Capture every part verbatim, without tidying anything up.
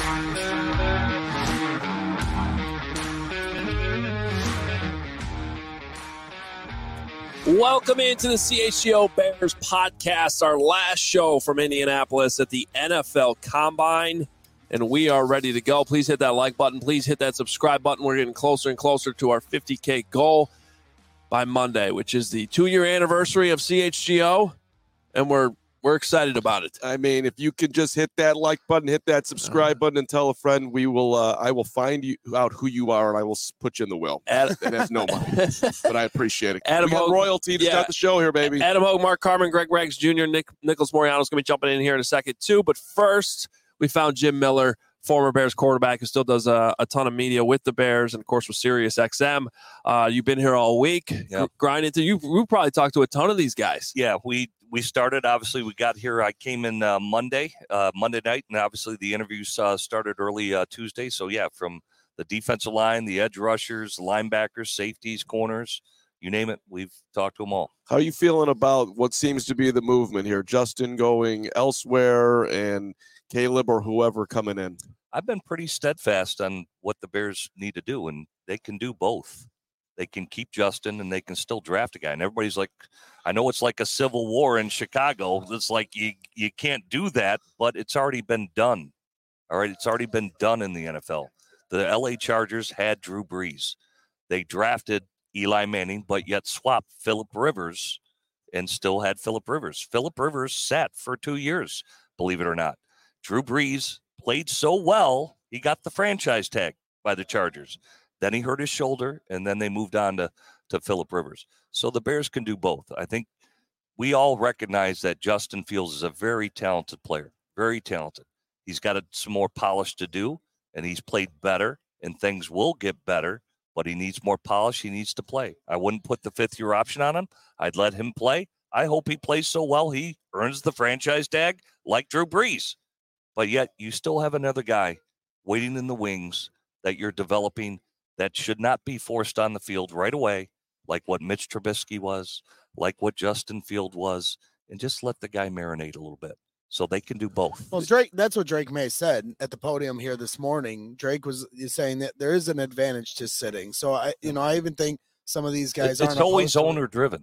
Welcome into the C H G O Bears podcast, our last show from Indianapolis at the N F L Combine, and we are ready to go. Please hit that like button. Please hit that subscribe button. We're getting closer and closer to our fifty K goal by Monday, which is the two-year anniversary of C H G O, and we're we're excited about it. I mean, if you could just hit that like button, hit that subscribe button, and tell a friend, we will. Uh, I will find you out who you are, and I will put you in the will. Adam, it has no money, but I appreciate it. Adam we got Hogue, royalty to yeah. start the show here, baby. Adam Hogue, Mark Carman, Greg Rags Junior, Nick Nicholas Moriano is going to be jumping in here in a second too. But first, we found Jim Miller, former Bears quarterback, who still does a, a ton of media with the Bears and, of course, with Sirius X M. Uh, you've been here all week, yep. grinding through. You we probably talked to a ton of these guys. Yeah, we we started. Obviously, we got here. I came in uh, Monday, uh, Monday night, and obviously the interviews uh, started early uh, Tuesday. So yeah, from the defensive line, the edge rushers, linebackers, safeties, corners, you name it, we've talked to them all. How are you feeling about what seems to be the movement here? Justin going elsewhere and Caleb or whoever coming in? I've been pretty steadfast on what the Bears need to do, and they can do both. They can keep Justin, and they can still draft a guy. And everybody's like, I know it's like a civil war in Chicago. It's like you you can't do that, but it's already been done. All right, it's already been done in the N F L. The L A Chargers had Drew Brees. They drafted Eli Manning, but yet swapped Phillip Rivers and still had Phillip Rivers. Phillip Rivers sat for two years, believe it or not. Drew Brees played so well, he got the franchise tag by the Chargers. Then he hurt his shoulder, and then they moved on to, to Phillip Rivers. So the Bears can do both. I think we all recognize that Justin Fields is a very talented player, very talented. He's got a, some more polish to do, and he's played better, and things will get better, but he needs more polish. He needs to play. I wouldn't put the fifth-year option on him. I'd let him play. I hope he plays so well he earns the franchise tag like Drew Brees. But yet you still have another guy waiting in the wings that you're developing that should not be forced on the field right away, like what Mitch Trubisky was, like what Justin Field was, and just let the guy marinate a little bit so they can do both. Well, Drake, that's what Drake May said at the podium here this morning. Drake was saying that there is an advantage to sitting. So, I, you know, I even think some of these guys it's, aren't. It's always owner driven.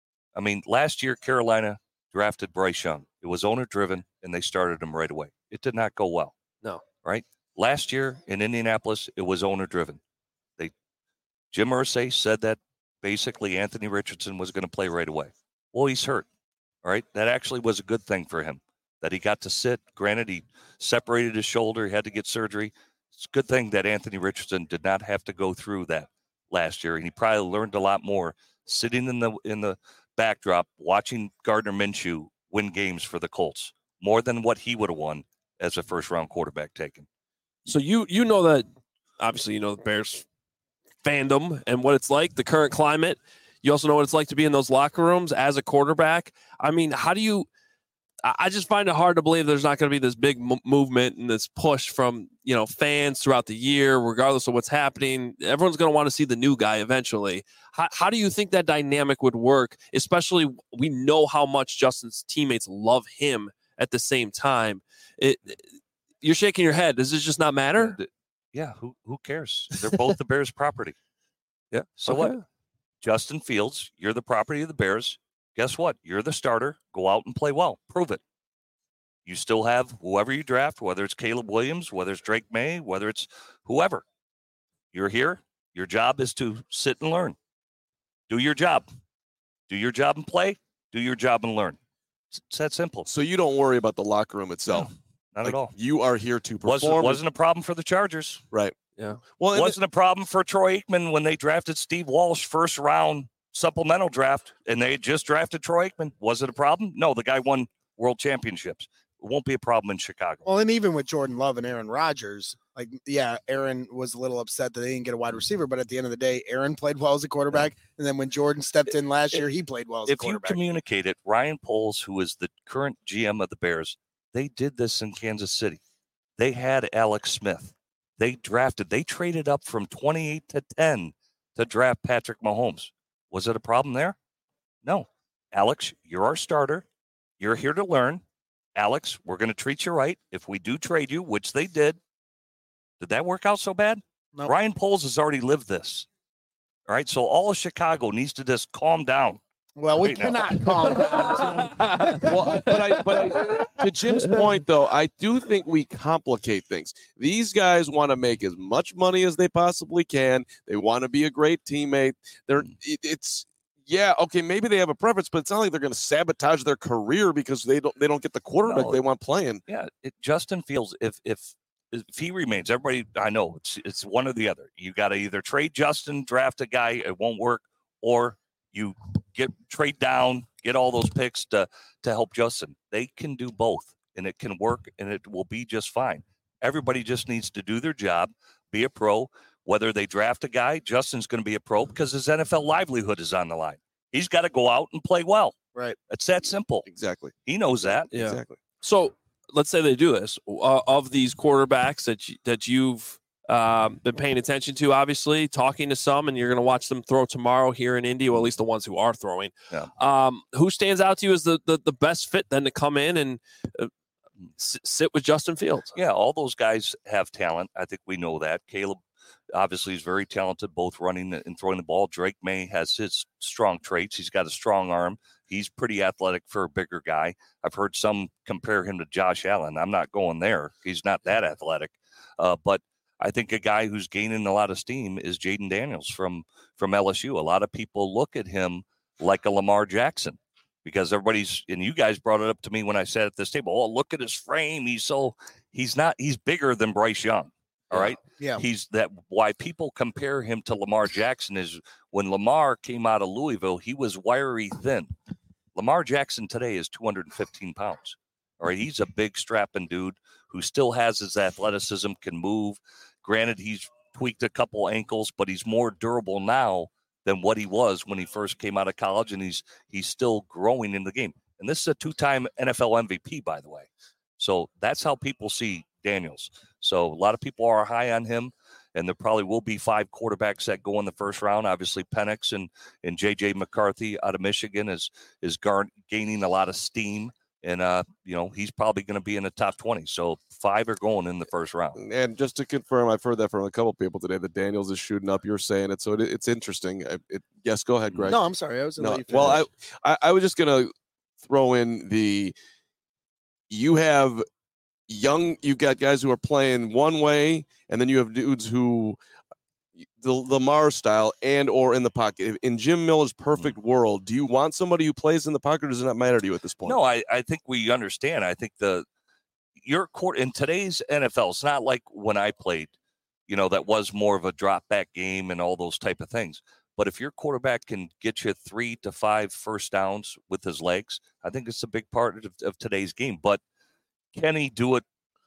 I mean, last year, Carolina drafted Bryce Young. It was owner driven, and they started him right away. It did not go well. No. Right? Last year in Indianapolis, it was owner driven. They Jim Irsay said that basically Anthony Richardson was going to play right away. Well, he's hurt. All right? That actually was a good thing for him, that he got to sit. Granted, he separated his shoulder. He had to get surgery. It's a good thing that Anthony Richardson did not have to go through that last year, and he probably learned a lot more sitting in the in the backdrop, watching Gardner Minshew win games for the Colts, more than what he would have won as a first-round quarterback taken. So you you know that, obviously you know the Bears fandom and what it's like, the current climate. You also know what it's like to be in those locker rooms as a quarterback. I mean, how do you – I just find it hard to believe there's not going to be this big m- movement and this push from, you know, fans throughout the year, regardless of what's happening. Everyone's going to want to see the new guy eventually. How, how do you think that dynamic would work, especially we know how much Justin's teammates love him at the same time? It, you're shaking your head. Does this just not matter? Yeah, who who cares? They're both the Bears' property. Yeah. So okay. what? Justin Fields, you're the property of the Bears. Guess what? You're the starter. Go out and play well. Prove it. You still have whoever you draft, whether it's Caleb Williams, whether it's Drake May, whether it's whoever. You're here. Your job is to sit and learn. Do your job. Do your job and play. Do your job and learn. It's, it's that simple. So you don't worry about the locker room itself. No, not like, at all. You are here to perform. Wasn't, wasn't a problem for the Chargers. Right. Yeah. Well, it wasn't a problem for Troy Aikman when they drafted Steve Walsh first round supplemental draft, and they had just drafted Troy Aikman. Was it a problem? No, the guy won world championships. It won't be a problem in Chicago. Well, and even with Jordan Love and Aaron Rodgers, like, yeah, Aaron was a little upset that they didn't get a wide receiver, but at the end of the day, Aaron played well as a quarterback, yeah. and then when Jordan stepped in last year, he played well as if a quarterback. If you communicate it, Ryan Poles, who is the current G M of the Bears, they did this in Kansas City. They had Alex Smith. They drafted, they traded up from twenty-eight to ten to draft Patrick Mahomes. Was it a problem there? No. Alex, you're our starter. You're here to learn. Alex, we're going to treat you right. If we do trade you, which they did, Did that work out so bad? Nope. Ryan Poles has already lived this. All right, so all of Chicago needs to just calm down. Well, we Right now. cannot calm down. Well, but I, but I, to Jim's point, though, I do think we complicate things. These guys want to make as much money as they possibly can. They want to be a great teammate. They're, it, it's, yeah, okay, maybe they have a preference, but it's not like they're going to sabotage their career because they don't, they don't get the quarterback No. they want playing. Yeah, it, Justin Fields, if if if he remains, everybody, I know it's it's one or the other. You got to either trade Justin, draft a guy, it won't work, or you get trade down, get all those picks to to help Justin. They can do both, and it can work, and it will be just fine. Everybody just needs to do their job, be a pro. Whether they draft a guy, Justin's going to be a pro because his N F L livelihood is on the line. He's got to go out and play well. Right. It's that simple. Exactly. He knows that. Yeah. Exactly. So let's say they do this. Uh, of these quarterbacks that you, that you've um, been paying attention to, obviously talking to some, and you're going to watch them throw tomorrow here in Indy, or at least the ones who are throwing. Yeah. Um, who stands out to you as the, the the best fit then to come in and uh, s- sit with Justin Fields? Yeah, all those guys have talent. I think we know that. Caleb obviously is very talented, both running and throwing the ball. Drake May has his strong traits. He's got a strong arm. He's pretty athletic for a bigger guy. I've heard some compare him to Josh Allen. I'm not going there. He's not that athletic. Uh, but I think a guy who's gaining a lot of steam is Jaden Daniels from, from L S U. A lot of people look at him like a Lamar Jackson because everybody's, and you guys brought it up to me when I sat at this table. Oh, look at his frame. He's so, he's not, he's bigger than Bryce Young. All right. Yeah. He's that why people compare him to Lamar Jackson is when Lamar came out of Louisville, he was wiry thin. Lamar Jackson today is two hundred fifteen pounds. All right. He's a big strapping dude who still has his athleticism, can move. Granted, he's tweaked a couple ankles, but he's more durable now than what he was when he first came out of college. And he's, he's still growing in the game. And this is a two-time N F L M V P, by the way. So that's how people see Daniels. So a lot of people are high on him, and there probably will be five quarterbacks that go in the first round. Obviously, Penix and, and J J McCarthy out of Michigan is is gar- gaining a lot of steam, and uh, you know he's probably going to be in the top twenty. So five are going in the first round. And just to confirm, I've heard that from a couple people today that Daniels is shooting up. You're saying it, so it, it's interesting. I, it, yes, go ahead, Greg. No, I'm sorry. I was gonna No, let you well, I, finish. I I was just gonna throw in the you have young you've got guys who are playing one way, and then you have dudes who the Lamar style and or in the pocket. In Jim Miller's perfect world, do you want somebody who plays in the pocket, or does it not matter to you at this point? No, I, I think we understand. I think the your court in today's N F L, it's not like when I played, you know, that was more of a drop back game and all those type of things. But if your quarterback can get you three to five first downs with his legs, I think it's a big part of, of today's game. But can he do it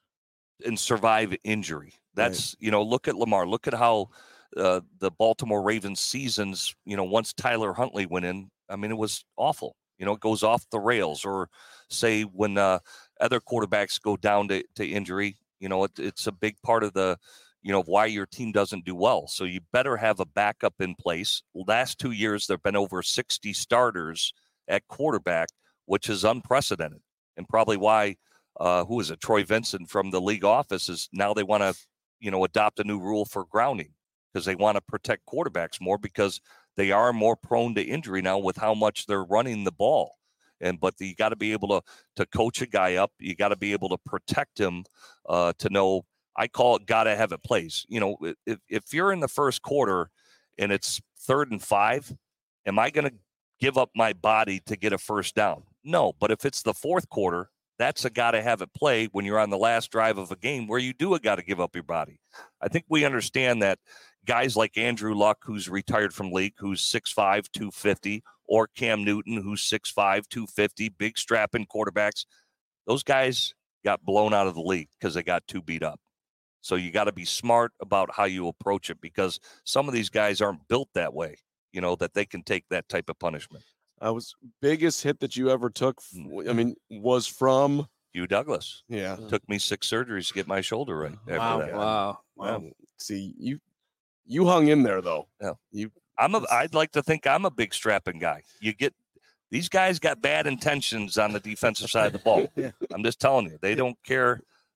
and survive injury? That's, right. you know, look at Lamar. Look at how uh, the Baltimore Ravens seasons, you know, once Tyler Huntley went in, I mean, it was awful. You know, it goes off the rails. Or say when uh, other quarterbacks go down to, to injury, you know, it, it's a big part of the, you know, why your team doesn't do well. So you better have a backup in place. Last two years, there have been over sixty starters at quarterback, which is unprecedented, and probably why Uh, who is it? Troy Vincent from the league office is now they want to, you know, adopt a new rule for grounding because they want to protect quarterbacks more because they are more prone to injury now with how much they're running the ball. And but you got to be able to to coach a guy up. You got to be able to protect him uh, to know. I call it got to have it plays. You know, if if you're in the first quarter and it's third and five, am I going to give up my body to get a first down? No. But if it's the fourth quarter, that's a got to have it play when you're on the last drive of a game where you do a got to give up your body. I think we understand that guys like Andrew Luck, who's retired from league, who's six five, two fifty, or Cam Newton, who's six five, two fifty, big strapping quarterbacks, those guys got blown out of the league because they got too beat up. So you got to be smart about how you approach it because some of these guys aren't built that way, you know, that they can take that type of punishment. I was biggest hit that you ever took. I mean, was from Hugh Douglas. Yeah, took me six surgeries to get my shoulder right. After wow, that. wow, wow. Um, see, you you hung in there though. Yeah, you. I'm a. I'd like to think I'm a big strapping guy. You get these guys got bad intentions on the defensive side of the ball. Yeah. I'm just telling you, they don't care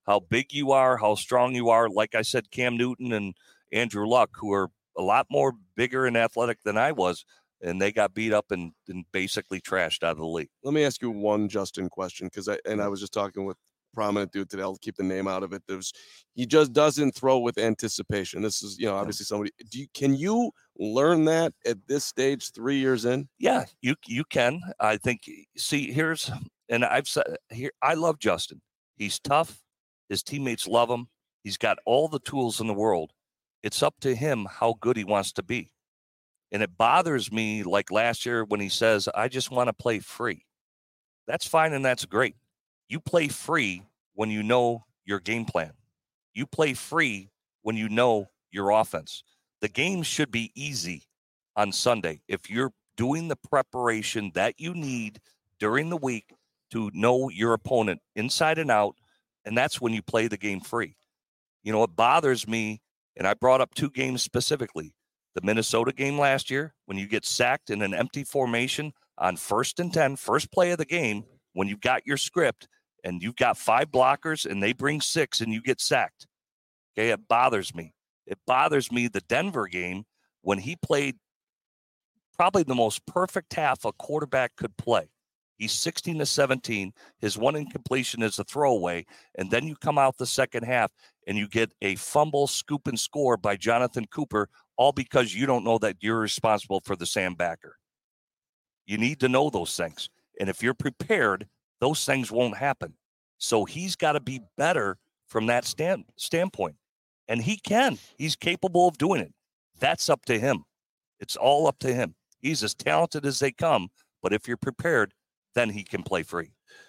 how big you are, how strong you are. Like I said, Cam Newton and Andrew Luck, who are a lot more bigger and athletic than I was, and they got beat up and, and basically trashed out of the league. Let me ask you one Justin question, because I and I was just talking with a prominent dude today. I'll keep the name out of it. There's he just doesn't throw with anticipation. This is, you know, obviously somebody. Do you can you learn that at this stage, three years in? Yeah, you you can. I think. See, here's and I've said here. I love Justin. He's tough. His teammates love him. He's got all the tools in the world. It's up to him how good he wants to be. And it bothers me, like last year when he says, I just want to play free. That's fine and that's great. You play free when you know your game plan. You play free when you know your offense. The game should be easy on Sunday if you're doing the preparation that you need during the week to know your opponent inside and out, and that's when you play the game free. You know, it bothers me, and I brought up two games specifically. The Minnesota game last year, when you get sacked in an empty formation on first and ten, first play of the game, when you've got your script and you've got five blockers and they bring six and you get sacked. Okay, it bothers me. It bothers me the Denver game when he played probably the most perfect half a quarterback could play. He's sixteen to seventeen. His one incompletion is a throwaway. And then you come out the second half and you get a fumble, scoop, and score by Jonathan Cooper, all because you don't know that you're responsible for the Sam backer. You need to know those things. And if you're prepared, those things won't happen. So he's got to be better from that stand, standpoint. And he can. He's capable of doing it. That's up to him. It's all up to him. He's as talented as they come. But if you're prepared, then he can play free.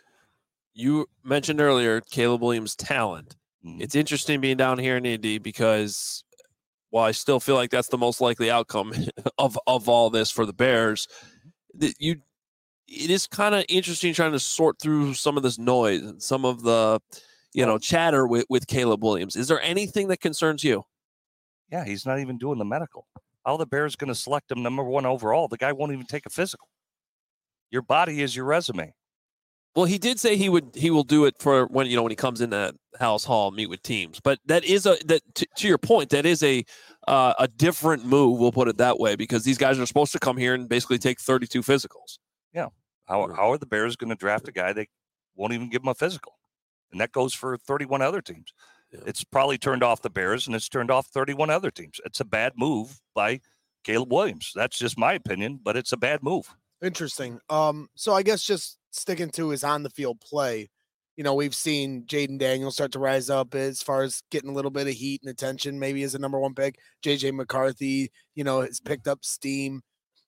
You mentioned earlier Caleb Williams' talent. Mm-hmm. It's interesting being down here in Indy because while I still feel like that's the most likely outcome of, of all this for the Bears, that you it is kind of interesting trying to sort through some of this noise and some of the you know chatter with, with Caleb Williams. Is there anything that concerns you? Yeah, he's not even doing the medical. How are the Bears going to select him number one overall? The guy won't even take a physical. Your body is your resume. Well, he did say he would he will do it for when you know when he comes into House Hall meet with teams. But that is a that to, to your point, that is a uh, a different move. We'll put it that way because these guys are supposed to come here and basically take thirty-two physicals. Yeah. How how are the Bears going to draft a guy they won't even give him a physical? And that goes for thirty-one other teams. Yeah. It's probably turned off the Bears and it's turned off thirty-one other teams. It's a bad move by Caleb Williams. That's just my opinion, but it's a bad move. Interesting. Um, so I guess just sticking to his on the field play, you know, we've seen Jaden Daniels start to rise up as far as getting a little bit of heat and attention, maybe as a number one pick. J J McCarthy, you know, has picked up steam.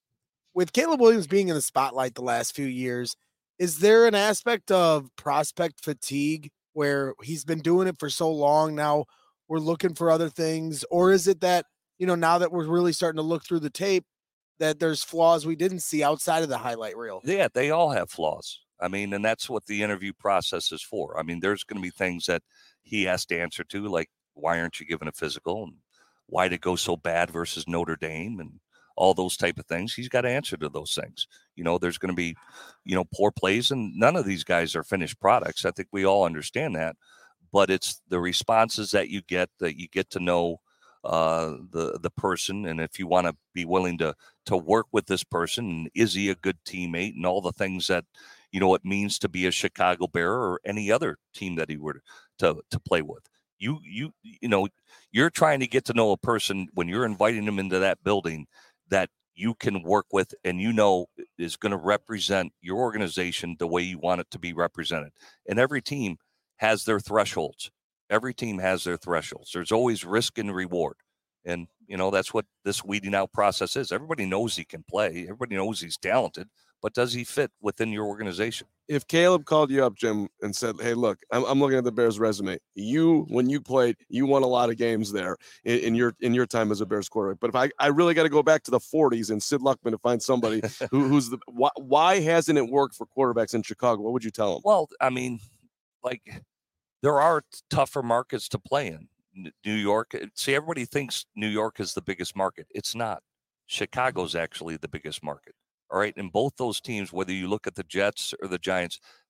With Caleb Williams being in the spotlight the last few years, is there an aspect of prospect fatigue where he's been doing it for so long now, we're looking for other things? Or is it that, you know, now that we're really starting to look through the tape, that there's flaws we didn't see outside of the highlight reel? Yeah, they all have flaws. I mean, and that's what the interview process is for. I mean, there's going to be things that he has to answer to, like, why aren't you giving a physical? And why did it go so bad versus Notre Dame? And all those type of things. He's got to answer to those things. You know, there's going to be, you know, poor plays, and none of these guys are finished products. I think we all understand that. But it's the responses that you get, that you get to know uh, the the person, and if you want to be willing to to work with this person, and is he a good teammate, and all the things that, you know, it means to be a Chicago Bear or any other team that he were to to play with. You you you know, you're trying to get to know a person when you're inviting them into that building that you can work with and you know is going to represent your organization the way you want it to be represented. And every team has their thresholds. Every team has their thresholds. There's always risk and reward. And, you know, that's what this weeding out process is. Everybody knows he can play. Everybody knows he's talented. But does he fit within your organization? If Caleb called you up, Jim, and said, hey, look, I'm, I'm looking at the Bears resume. You, when you played, you won a lot of games there in, in your in your time as a Bears quarterback. But if I, I really got to go back to the forties and Sid Luckman to find somebody who, who's the why, why hasn't it worked for quarterbacks in Chicago? What would you tell them? Well, I mean, like, there are tougher markets to play in. New York, see, everybody thinks New York is the biggest market. It's not. Chicago's actually the biggest market. All right. And both those teams, whether you look at the Jets or the Giants,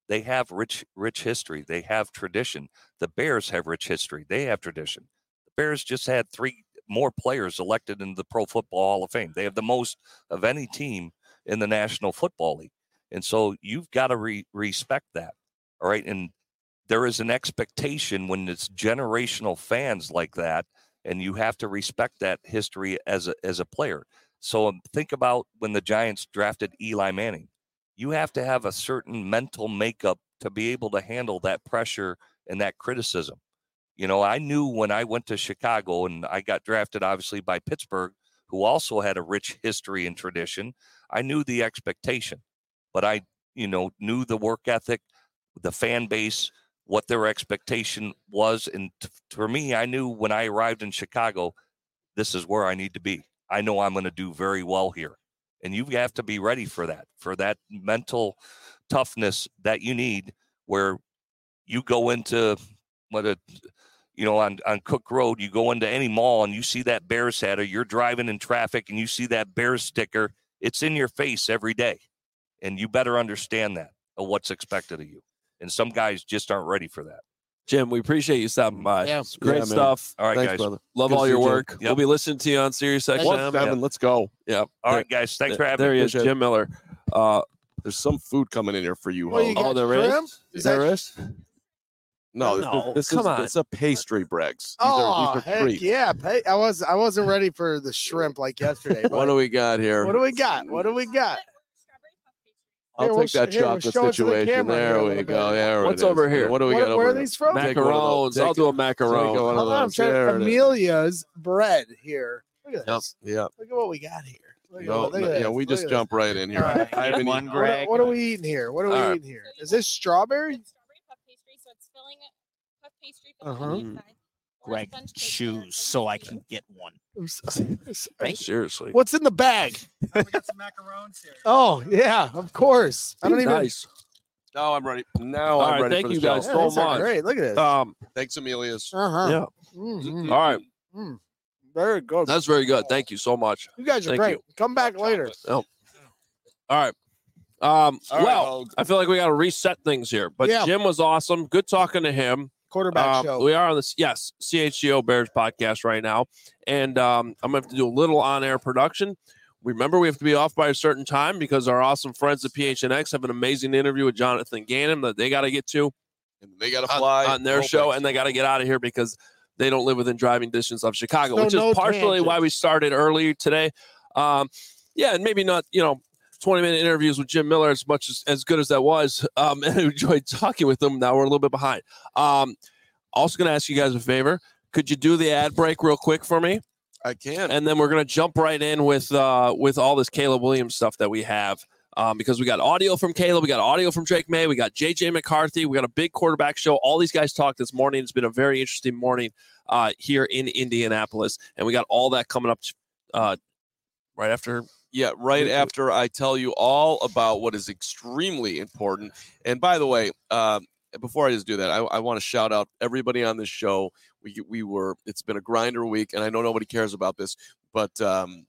They have rich, rich history. They have tradition. The Bears have rich history. They have tradition. The Bears just had three more players elected into the Pro Football Hall of Fame. They have the most of any team in the National Football League. And so you've got to re- respect that. All right. And there is an expectation when it's generational fans like that, and you have to respect that history as a, as a player. So think about when the Giants drafted Eli Manning. You have to have a certain mental makeup to be able to handle that pressure and that criticism. You know, I knew when I went to Chicago and I got drafted, obviously, by Pittsburgh, who also had a rich history and tradition. I knew the expectation, but I, you know, knew the work ethic, the fan base, what their expectation was. And t- for me, I knew when I arrived in Chicago, this is where I need to be. I know I'm going to do very well here. And you have to be ready for that, for that mental toughness that you need where you go into what a, you know, on, on Cook Road, you go into any mall and you see that Bears hat, or you're driving in traffic and you see that Bears sticker. It's in your face every day. And you better understand that, of what's expected of you. And some guys just aren't ready for that. Jim, we appreciate you stopping by. Yeah. It's great Yeah, man. stuff. All right, Thanks, guys. brother. Love Good to all see your you, Jim. work. Yep. We'll be listening to you on Sirius X M. What, Devin? Let's go. Yeah. All right, guys. Thanks for having there me. he is, Appreciate it. Jim Miller. Uh, There's some food coming in here for you, What do you Ho. got? oh, there is? shrimp? Is There that- is? No, this, No, this come is on. it's a pastry, Bregs. These Oh, are, these are heck treats. yeah. Pay, I was I wasn't ready for the shrimp like yesterday. What but do we got here? what do we got? What do we got? I'll Here, we'll take that sh- here, we'll chocolate show it to the situation. camera here There a we little go. bit. There What's it is. over here? What do we What- got where over are here? these from? Take one of those. Macarons. I'll Take do a it. Take macaron. one of Hold on, I'm those. trying There it is. Amelia's bread here. Look at Yep. this. Yeah. Look at what we got here. Look at, No, look at no, this. yeah, we Look just at jump right in here. All right. I haven't One eaten- this. What, are- Greg. what are we eating here? What are we All right. eating here? Is this strawberry? Strawberry puff pastry, so it's filling it. Puff pastry filling Uh-huh. on the inside. Or Greg, sponge cake choose there, so I sponge can get one. Right. Seriously. What's in the bag? we got some macarons here. Oh yeah, of course. I don't even. Nice. Now I'm ready. Now All I'm right, ready thank for the you show. guys Yeah, so these are much. Great. Look at this. Um, Thanks, Amelia's. Uh huh. yeah. Mm-hmm. All right. Mm. Very good. That's very good. Thank you so much. You guys are Thank great. you. Come back later. All right. Um, All right, well, Hogue. I feel like we got to reset things here. But Yeah. Jim was awesome. Good talking to him. Quarterback Um, show. we are on this, yes, C H G O Bears podcast right now. And um, I'm going to have to do a little on air production. Remember, we have to be off by a certain time because our awesome friends at P H N X have an amazing interview with Jonathan Gannon that they got to get to And they got to on, fly on their Oh, show, thanks. and they got to get out of here because they don't live within driving distance of Chicago, So which no is partially why tangents. we started early today. Um, yeah, and maybe not, you know, twenty minute interviews with Jim Miller as much as, as good as that was. Um, and I enjoyed talking with them. Now we're a little bit behind. Um, also going to ask you guys a favor. Could you do the ad break real quick for me? I can. And then we're going to jump right in with uh, with all this Caleb Williams stuff that we have. Um, because we got audio from Caleb, we got audio from Drake May, we got J J McCarthy, we got a big quarterback show. All these guys talked this morning. It's been a very interesting morning uh, here in Indianapolis, and we got all that coming up uh, right after. Yeah, right after I tell you all about what is extremely important. And by the way, um, before I just do that, I, I want to shout out everybody on this show. We we were it's been a grinder week, and I know nobody cares about this, but um,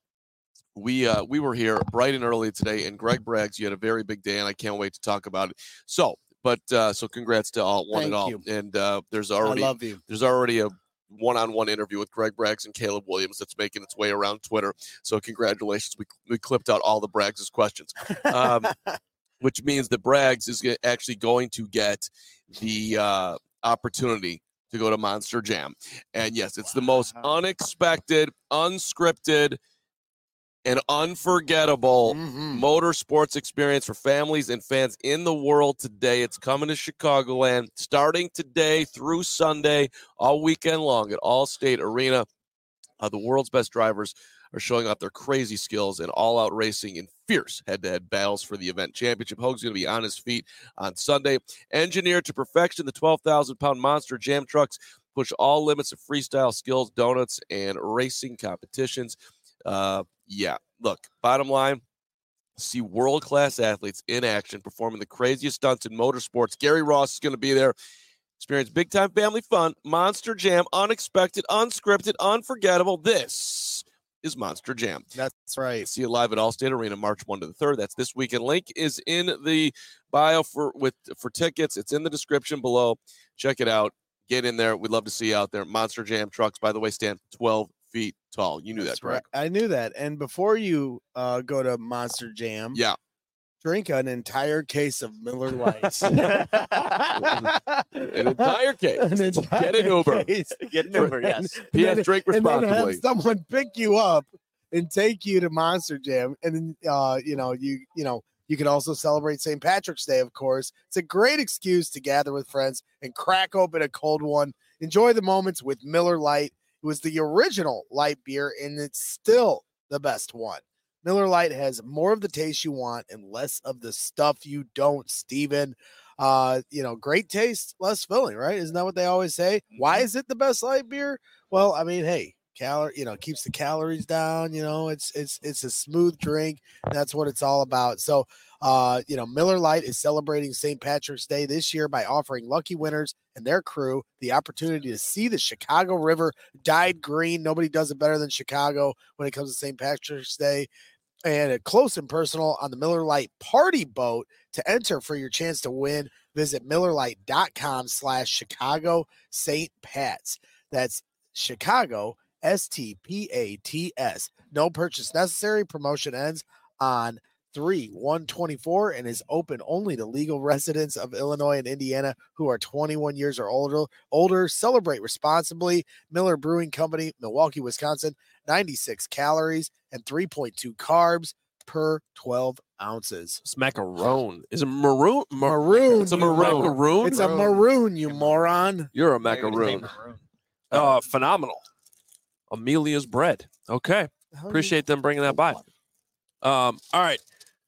we uh, we were here bright and early today. And Greg Braggs, you had a very big day, and I can't wait to talk about it. So, but uh, so congrats to all one Thank and all. you. And uh, there's I already love you. there's already a one-on-one interview with Greg Braggs and Caleb Williams that's making its way around Twitter. So congratulations. We, we clipped out all the Braggs' questions, um, which means that Braggs is ge- actually going to get the uh, opportunity to go to Monster Jam. And yes, it's the most unexpected, unscripted, and unforgettable Mhm. motorsports experience for families and fans in the world today. It's coming to Chicagoland starting today through Sunday, all weekend long at Allstate Arena. Uh, the world's best drivers are showing off their crazy skills and all-out racing in fierce head-to-head battles for the event championship. Hogue's going to be on his feet on Sunday. Engineered to perfection, the twelve thousand pound Monster Jam trucks push all limits of freestyle skills, donuts, and racing competitions. Uh, yeah, look, bottom line, see world-class athletes in action performing the craziest stunts in motorsports. Gary Ross is going to be there. Experience big-time family fun, Monster Jam, unexpected, unscripted, unforgettable. This is Monster Jam. That's right. See it live at Allstate Arena, March first to the third. That's this weekend. Link is in the bio for with for tickets. It's in the description below. Check it out. Get in there. We'd love to see you out there. Monster Jam trucks, by the way, stand twelve feet tall. You knew That's that, correct? right. I knew that. And before you uh, go to Monster Jam, Yeah. drink an entire case of Miller Lite. An entire case. An entire Get an Uber. case. Get an Uber, yes. And P S then- drink and then have responsibly. someone pick you up and take you to Monster Jam, and then uh, you know you you know you can also celebrate Saint Patrick's Day. Of course, it's a great excuse to gather with friends and crack open a cold one. Enjoy the moments with Miller Lite. It was the original light beer, and it's still the best one. Miller Lite has more of the taste you want and less of the stuff you don't, Steven. Uh, you know, great taste, less filling, right? Isn't that what they always say? Why is it the best light beer? Well, I mean, hey, calorie, you know, keeps the calories down, you know, it's it's it's a smooth drink. That's what it's all about. So uh, you know, Miller Lite is celebrating Saint Patrick's Day this year by offering lucky winners and their crew the opportunity to see the Chicago River dyed green. Nobody does it better than Chicago when it comes to Saint Patrick's Day. And a close and personal on the Miller Lite party boat. To enter for your chance to win, visit MillerLite.com slash Chicago Saint Pats. That's Chicago S T P A T S. No purchase necessary. Promotion ends on three one twenty-four and is open only to legal residents of Illinois and Indiana who are twenty-one years or older. Older, celebrate responsibly. Miller Brewing Company, Milwaukee, Wisconsin. ninety-six calories and three point two carbs per twelve ounces. It's macaron. Is it maroon? Mar- Maroon. It's a you maroon. mo- Maroon? It's a maroon, you moron. You're a I gotta say macaroon. maroon. Uh, phenomenal. Amelia's bread. Okay. Appreciate them bringing that by. Um, all right.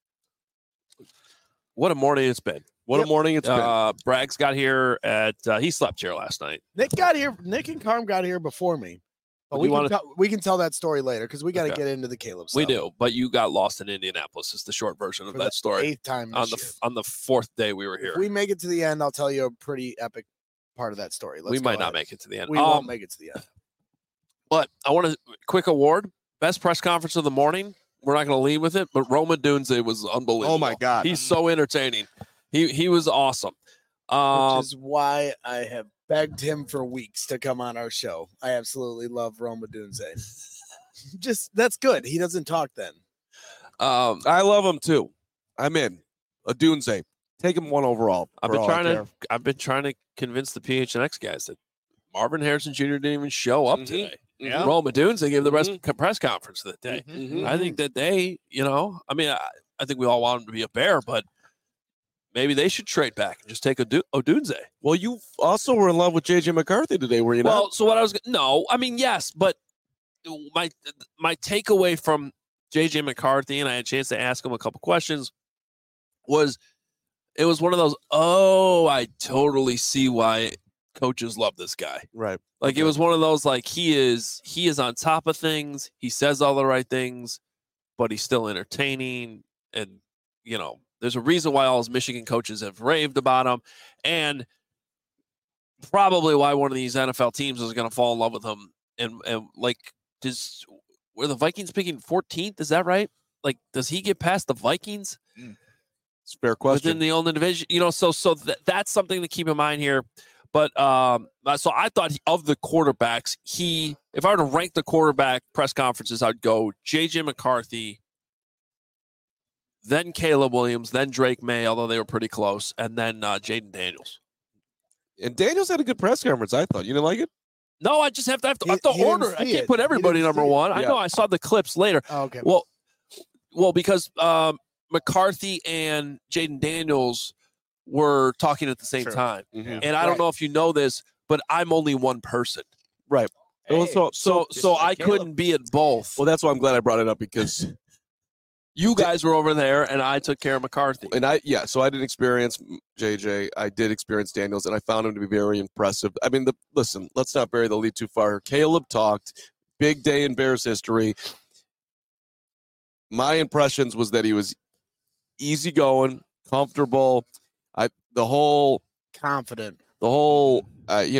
What a morning it's been. What Yep. a morning it's been. Uh, Braggs got here at, uh, he slept here last night. Nick got here. Nick and Carm got here before me. But Do we you can, wanna- tell, we can tell that story later because we got to Okay. get into the Caleb stuff. We do, but you got lost in Indianapolis. Is the short version of For that the story. Eighth time On this the year. f- on the fourth day we were here. If we make it to the end, I'll tell you a pretty epic part of that story. Let's we go might not ahead. make it to the end. We Um, won't make it to the end. But I want a quick award. Best press conference of the morning. We're not going to lead with it, but Roma Dunze was unbelievable. Oh my God. He's so entertaining. He he was awesome. Um, Which is why I have begged him for weeks to come on our show. I absolutely love Roma Dunze. Just that's good. He doesn't talk then. um, I love him too. I'm in. A Dunze. Take him one overall. I've for been all I trying to care. I've been trying to convince the P H N X guys that Marvin Harrison Junior didn't even show up Mhm. today. Yeah. Roma Dunze gave the rest Mhm. press conference that day. Mhm. I think that they, you know, I mean, I, I think we all want him to be a Bear, but maybe they should trade back and just take a Du- Odunze. Well, you also were in love with J J McCarthy today, were you Well, not? so what I was no, I mean yes, but my my takeaway from J J McCarthy, and I had a chance to ask him a couple questions, was it was one of those, oh, I totally see why coaches love this guy. Right. Like it was one of those like he is he is on top of things, he says all the right things, but he's still entertaining, and you know, there's a reason why all his Michigan coaches have raved about him, and probably why one of these N F L teams is going to fall in love with him. And and like, does were the Vikings picking fourteenth? Is that right? Like, does he get past the Vikings It's a fair question. within the only division? You know, so so th- that's something to keep in mind here. But um, uh, so I thought he- of the quarterbacks, he if I were to rank the quarterback press conferences, I'd go J J McCarthy, then Caleb Williams, then Drake May, although they were pretty close, and then uh, Jaden Daniels. and Daniels had a good press conference, I thought. You didn't like it? No, I just have to have to, He- have to he didn't order. I see can't it. put He everybody didn't number see it. one. I Yeah. know. I saw the clips later. Oh, okay. Well, well, because um, McCarthy and Jaden Daniels were talking at the same True. time, Mhm. and I don't Right. know if you know this, but I'm only one person, Well, Hey, so, so just so like I Caleb. couldn't be at both. well, that's why I'm glad I brought it up because, You guys were over there, and I took care of McCarthy. and I, yeah, so I didn't experience J J. I did experience Daniels, and I found him to be very impressive. I mean, the listen, let's not bury the lead too far. Caleb talked, big day in Bears history. My impressions was that he was easygoing, comfortable. I the whole Confident. the whole uh, you know,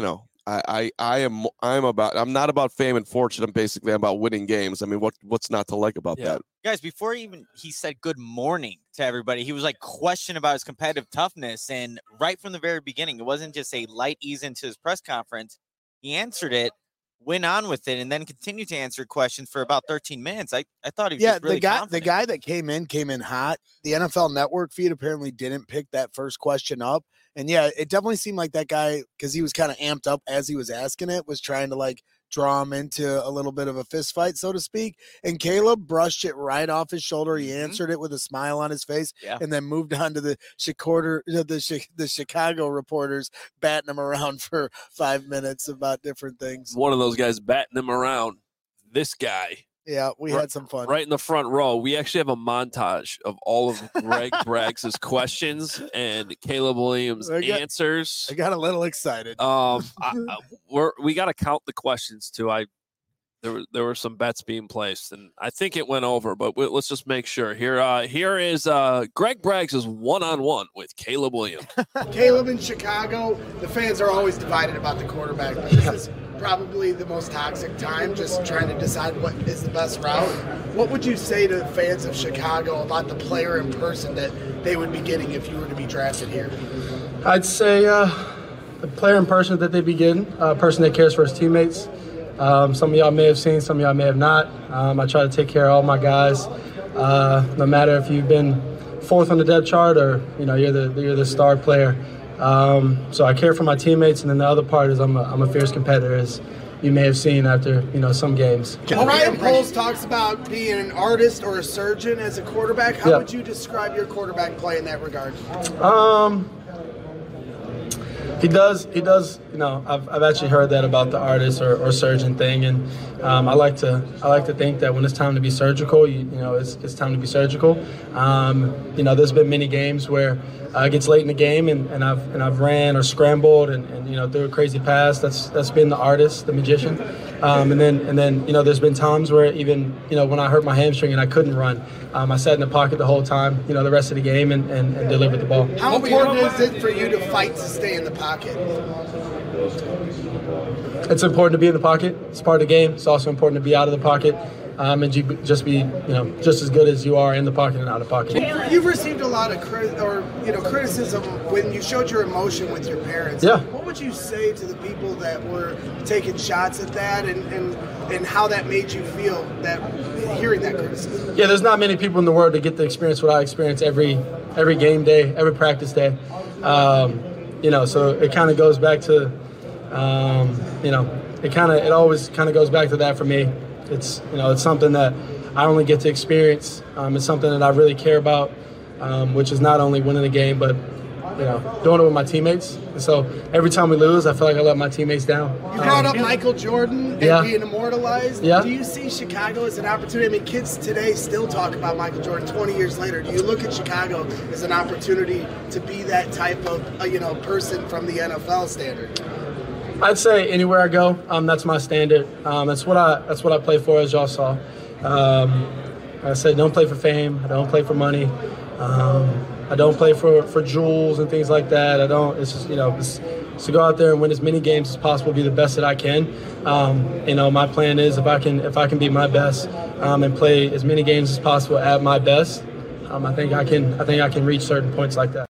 I, I, I am I'm about I'm not about fame and fortune. I'm basically about winning games. I mean, what what's not to like about Yeah. that? Guys, before even he said good morning to everybody, he was like questioning about his competitive toughness. And right from the very beginning, it wasn't just a light ease into his press conference. He answered it, went on with it, and then continued to answer questions for about thirteen minutes. I, I thought he was Yeah, just really the guy confident. the guy that came in came in hot. The N F L Network feed apparently didn't pick that first question up. And yeah, it definitely seemed like that guy, because he was kind of amped up as he was asking it, was trying to like draw him into a little bit of a fist fight, so to speak. And Caleb brushed it right off his shoulder. He Mhm. answered it with a smile on his face, Yeah. and then moved on to the Chicago, the, the Chicago reporters batting him around for five minutes about different things. One of those guys batting him around. This guy. Yeah, we Right- had some fun. Right in the front row, we actually have a montage of all of Greg Braggs' questions and Caleb Williams' I got- answers. I got a little excited. Um, I, I, we're we got to count the questions too. I there were there were some bets being placed, and I think it went over. But we, let's just make sure. Here, uh, here is uh, Greg Braggs' one on one with Caleb Williams. Caleb in Chicago, the fans are always divided about the quarterback. But this is probably the most toxic time, just trying to decide what is the best route. What would you say to fans of Chicago about the player in person that they would be getting if you were to be drafted here? I'd say uh, the player in person that they begin, a person that cares for his teammates. Um, some of y'all may have seen, some of y'all may have not. Um, I try to take care of all my guys, uh, no matter if you've been fourth on the depth chart or you know you're the you're the star player. Um, so I care for my teammates, and then the other part is I'm a, I'm a fierce competitor, as you may have seen after you know some games. Ryan Poles talks about being an artist or a surgeon as a quarterback. How Yeah. would you describe your quarterback play in that regard? Um, he does. He does. You know, I've, I've actually heard that about the artist or, or surgeon thing, and um, I like to. I like to think that when it's time to be surgical, you, you know, it's, it's time to be surgical. Um, you know, there's been many games where uh, it gets late in the game, and, and I've and I've ran or scrambled, and, and you know, threw a crazy pass. That's that's been the artist, the magician. Um, and then and then you know, there's been times where even you know when I hurt my hamstring and I couldn't run, um, I sat in the pocket the whole time. You know, the rest of the game and, and, and delivered the ball. How important is it for you to fight to stay in the pocket? It's important to be in the pocket. It's part of the game. It's also important to be out of the pocket um, and ju- just be, you know, just as good as you are in the pocket and out of the pocket. You've received a lot of crit- or you know criticism when you showed your emotion with your parents. Yeah. What would you say to the people that were taking shots at that, and and, and how that made you feel that hearing that criticism? Yeah, there's not many people in the world that get to experience what I experience every every game day, every practice day. Um, you know, so it kind of goes back to, um, you know, it kind of it always kind of goes back to that for me. It's you know it's something that I only get to experience. Um, it's something that I really care about, um, which is not only winning the game, but you know doing it with my teammates. And so every time we lose, I feel like I let my teammates down. You brought Um, up Michael Jordan and Yeah. being immortalized. Yeah. Do you see Chicago as an opportunity? I mean, kids today still talk about Michael Jordan twenty years later. Do you look at Chicago as an opportunity to be that type of uh, you know person from the N F L standard? I'd say anywhere I go, um, that's my standard. Um, that's what I that's what I play for, as y'all saw. Um, like I said, don't play for fame. I don't play for money. Um, I don't play for, for jewels and things like that. I don't. It's just you know, it's, it's to go out there and win as many games as possible, be the best that I can. Um, you know, my plan is if I can if I can be my best um, and play as many games as possible at my best, um, I think I can I think I can reach certain points like that.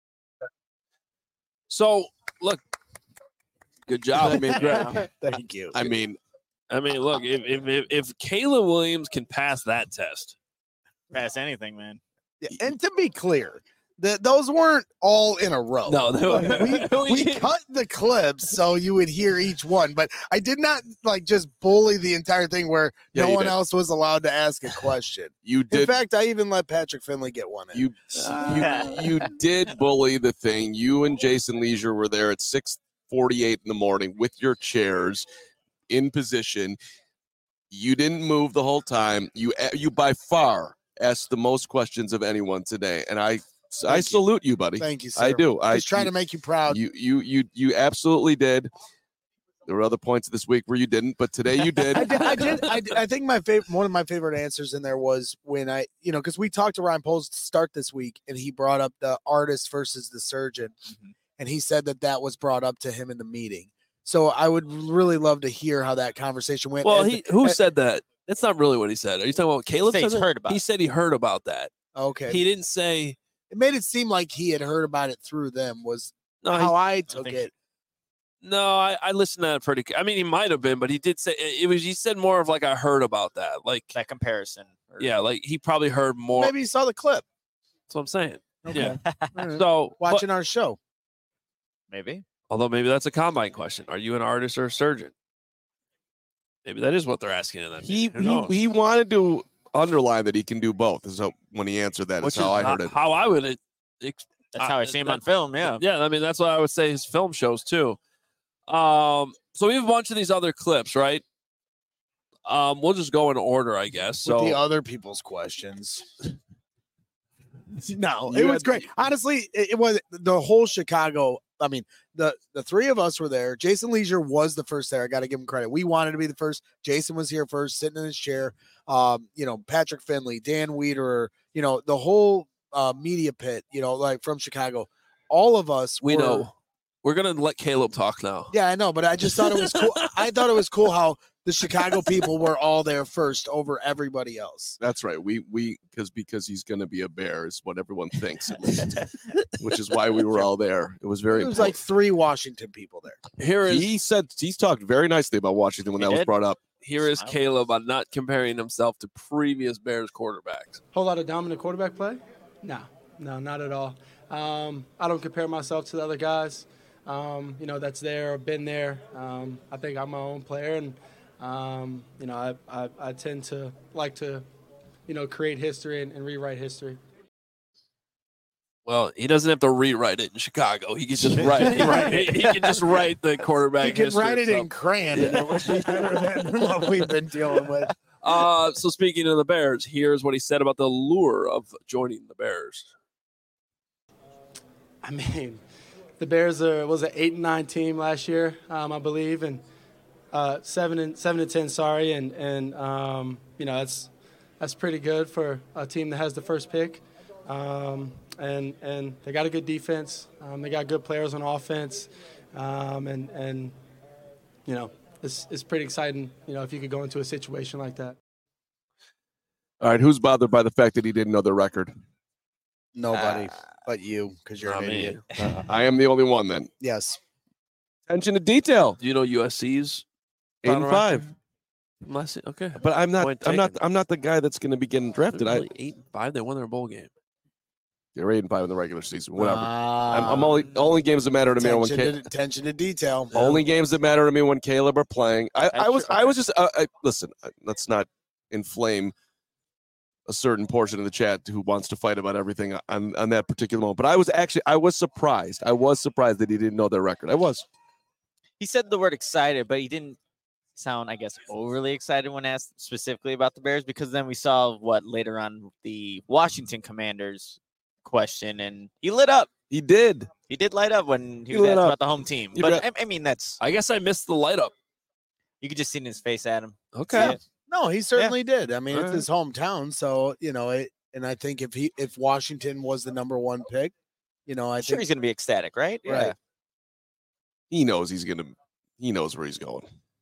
So look, good job. I mean, Greg, Thank you. I mean, I mean, look, if if if, if Caleb Williams can pass that test, Pass anything, man. Yeah, and to be clear, the, those weren't all in a row. no, we, we cut the clips so you would hear each one, but I did not like just bully the entire thing where Yeah, no you one did. else was allowed to ask a question. you In did fact, I even let Patrick Finley get one in. you you you did bully the thing. You and Jason Leisure were there at six forty-eight in the morning with your chairs in position. You didn't move the whole time. You you by far asked the most questions of anyone today, and I I you. salute you, buddy. Thank you, sir. I do. I Just trying you, to make you proud. you you you you absolutely did. There were other points this week where you didn't, but today you did. I did. I did. I, did- I think my favorite, one of my favorite answers in there was when I, you know, because we talked to Ryan Poles to start this week, and he brought up the artist versus the surgeon, Mhm. and he said that that was brought up to him in the meeting. So I would really love to hear how that conversation went. Well, And- he who and- said that? That's not really what he said. Are you talking about Caleb? Say said he's that? heard about He it. said he heard about that. okay. He didn't say It made it seem like he had heard about it through them. Was no. he- how I took think it. no, I, I listened to that pretty. I mean, he might have been, but he did say it, it was. He said more of like I heard about that. Like That comparison. or- yeah, like he probably heard more. Maybe he saw the clip. That's what I'm saying. Okay. Yeah. All right. So but- Watching our show. Maybe. although maybe that's a combine question. Are you an artist or a surgeon? Maybe that is what they're asking in that. He meeting. Who knows? he, he wanted to underline that he can do both. Is how, when he answered that. Which Is how I heard ho- it. How I would. It, ex- That's Uh, how I see him that- on film. Yeah. Yeah, I mean that's what I would say his film shows too. Um, so we have a bunch of these other clips, right? Um, we'll just go in order, I guess. With the So other people's questions. No, You it was had- great. Honestly, it, it was the whole Chicago. I mean, the the three of us were there. Jason Leisure was the first there. I got to give him credit. We wanted to be the first. Jason was here first, sitting in his chair. Um, you know, Patrick Finley, Dan Wiederer, you know, the whole uh, media pit. You know, like from Chicago. All of us. we were- know we're gonna let Caleb talk now. Yeah, I know, but I just thought it was cool. I thought it was cool how the Chicago people were all there first over everybody else. That's right. We we because because he's going to be a bear is what everyone thinks, at least, which is why we were all there. It was very. There was like three Washington people there. Here is he said he's talked very nicely about Washington when He that was did? brought up. here is Smile. Caleb on not comparing himself to previous Bears quarterbacks. Whole lot of dominant quarterback play? No, no, not at all. Um, I don't compare myself to the other guys, um, you know, that's there or been there. Um, I think I'm my own player, and um, you know, I, I, I tend to like to, you know, create history and, and rewrite history. Well, he doesn't have to rewrite it in Chicago. He can just write. He, write- he can just write the quarterback. You can history write it itself. in crayon, and it would be better than what we've been dealing with. Uh, so speaking of the Bears, here's what he said about the lure of joining the Bears. I mean, the Bears are, was an eight and nine team last year, um, I believe, and uh, seven and seven and ten. Sorry, and and um, you know that's that's pretty good for a team that has the first pick, um, and and they got a good defense. Um, they got good players on offense, um, and and you know it's it's pretty exciting. You know if you could go into a situation like that. All right, who's bothered by the fact that he didn't know the record? Nobody but you, because you're Not an me. idiot. Uh, I am the only one then. Yes. Attention to detail. Do you know U S C's Eight and five. Last, okay, But I'm not. Point I'm not. taken. I'm not the guy that's going to be getting drafted. I, Really, eight and five. They won their bowl game. they're eight and five in the regular season. Whatever. I'm, Uh, I'm only only games that matter to me are when attention, Ca- to, attention to detail. only games that matter to me when Caleb are playing. I, I That's was. true. I was just. Uh, I, listen. uh, Let's not inflame a certain portion of the chat who wants to fight about everything on, on that particular moment. But I was actually. I was surprised. I was surprised that he didn't know their record. I was. He said the word excited, but he didn't sound, I guess, overly excited when asked specifically about the Bears, because then we saw what later on the Washington Commanders question, and he lit up. He did. He did light up when he He was lit asked up. about the home team. You But bet. I, I mean, that's I guess I missed the light up. you could just see in his face, Adam. Okay. See it. No, he certainly did. I mean, it's Alright. his hometown, so you know it. And I think if he if Washington was the number one pick, you know, I I'm sure think he's gonna be ecstatic, right? Right. He knows he's gonna. He knows where he's going.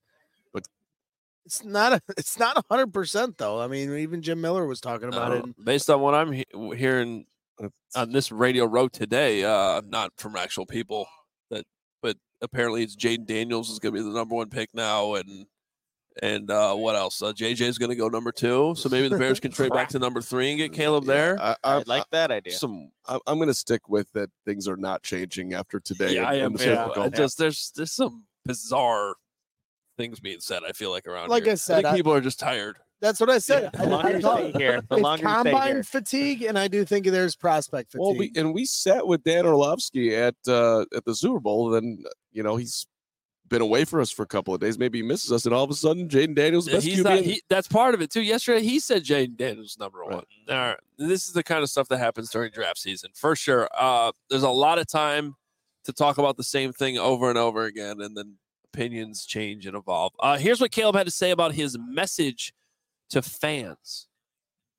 it's not a it's not a hundred percent though. I mean, even Jim Miller was talking about it. Uh, based on what I'm he- hearing on this radio road today, uh, not from actual people, that but apparently it's Jaden Daniels is going to be the number one pick now, and and uh, what else? Uh, J J is going to go number two, so maybe the Bears can trade back to number three and get Caleb there. I, I I, like that idea. some. I, I'm going to stick with that. Things are not changing after today. Yeah, and- I am. and the Yeah, Super I Bowl. just there's there's some bizarre things being said. I feel like around Like here. I said, think I- people are just tired. That's what I said. The I- longer I you thought- stay here, the it's longer you stay combine here. fatigue, and I do think there's prospect fatigue. Well, we and we sat with Dan Orlovsky at uh, at the Super Bowl. Then you know he's been away for us for a couple of days. Maybe he misses us, and all of a sudden, Jaden Daniels, the best He's Q B. not, in- he, that's part of it too. Yesterday, he said Jaden Daniels is number Right. one. All right, this is the kind of stuff that happens during draft season for sure. Uh, there's a lot of time to talk about the same thing over and over again, and then opinions change and evolve. Uh, here's what Caleb had to say about his message to fans.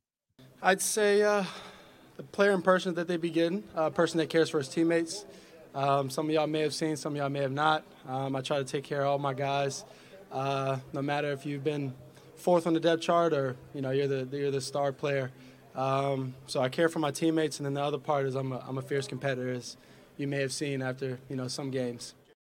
I'd say uh, the player and person that they be getting, a person that cares for his teammates, Um, some of y'all may have seen, some of y'all may have not. Um, I try to take care of all my guys, uh, no matter if you've been fourth on the depth chart or, you know, you're the you're the star player. Um, so I care for my teammates, and then the other part is I'm a, I'm a fierce competitor, as you may have seen after, you know, some games.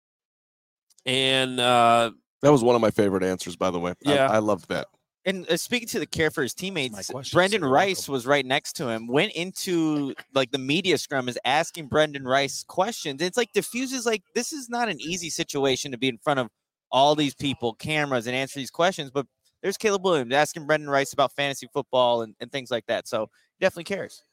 And uh, that was one of my favorite answers, by the way. Yeah. I, I loved that. And uh, speaking to the care for his teammates, question, Brendan so you're Rice welcome. was right next to him, went into like the media scrum, is asking Brendan Rice questions. It's like diffuses like this is not an easy situation to be in front of all these people, cameras, and answer these questions. But there's Caleb Williams asking Brendan Rice about fantasy football and, and things like that. So he definitely cares.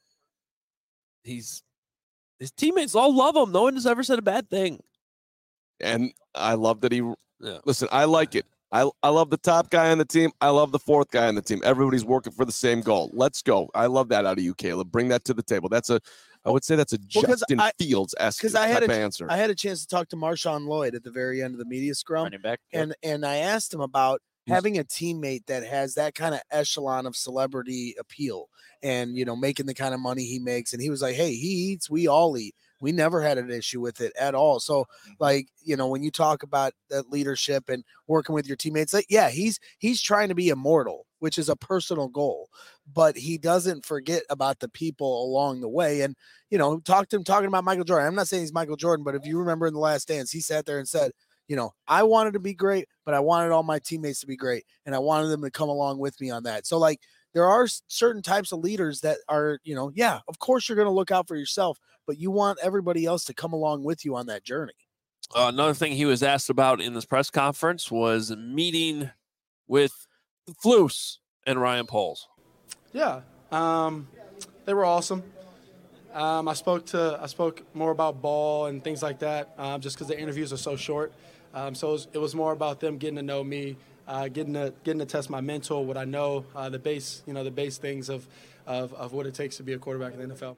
he's his teammates all love him. No one has ever said a bad thing. And I love that he Yeah. listen, I like it. I, I love the top guy on the team. I love the fourth guy on the team. Everybody's working for the same goal. Let's go. I love that out of you, Caleb. Bring that to the table. That's a, I would say that's a Well, 'cause Justin I- Fields esque 'cause I had type a- of answer. I had a chance to talk to Marshawn Lloyd at the very end of the media scrum, Running back. Yep. and and I asked him about He's- having a teammate that has that kind of echelon of celebrity appeal, and you know, making the kind of money he makes. And he was like, "Hey, he eats, we all eat. We never had an issue with it at all." So, like, you know, when you talk about that leadership and working with your teammates, like, yeah, he's he's trying to be immortal, which is a personal goal, but he doesn't forget about the people along the way. And you know, talk to him talking about Michael Jordan. I'm not saying he's Michael Jordan, but if you remember in The Last Dance, he sat there and said, you know, I wanted to be great, but I wanted all my teammates to be great, and I wanted them to come along with me on that. So, like, there are s- certain types of leaders that are, you know, yeah, of course you're going to look out for yourself, but you want everybody else to come along with you on that journey. Uh, another thing he was asked about in this press conference was a meeting with Flus and Ryan Poles. Yeah, um, they were awesome. Um, I spoke to I spoke more about ball and things like that, um, just because the interviews are so short. Um, so it was, it was more about them getting to know me, uh, getting to getting to test my mental, what I know, uh, the base you know the base things of, of of what it takes to be a quarterback in the N F L.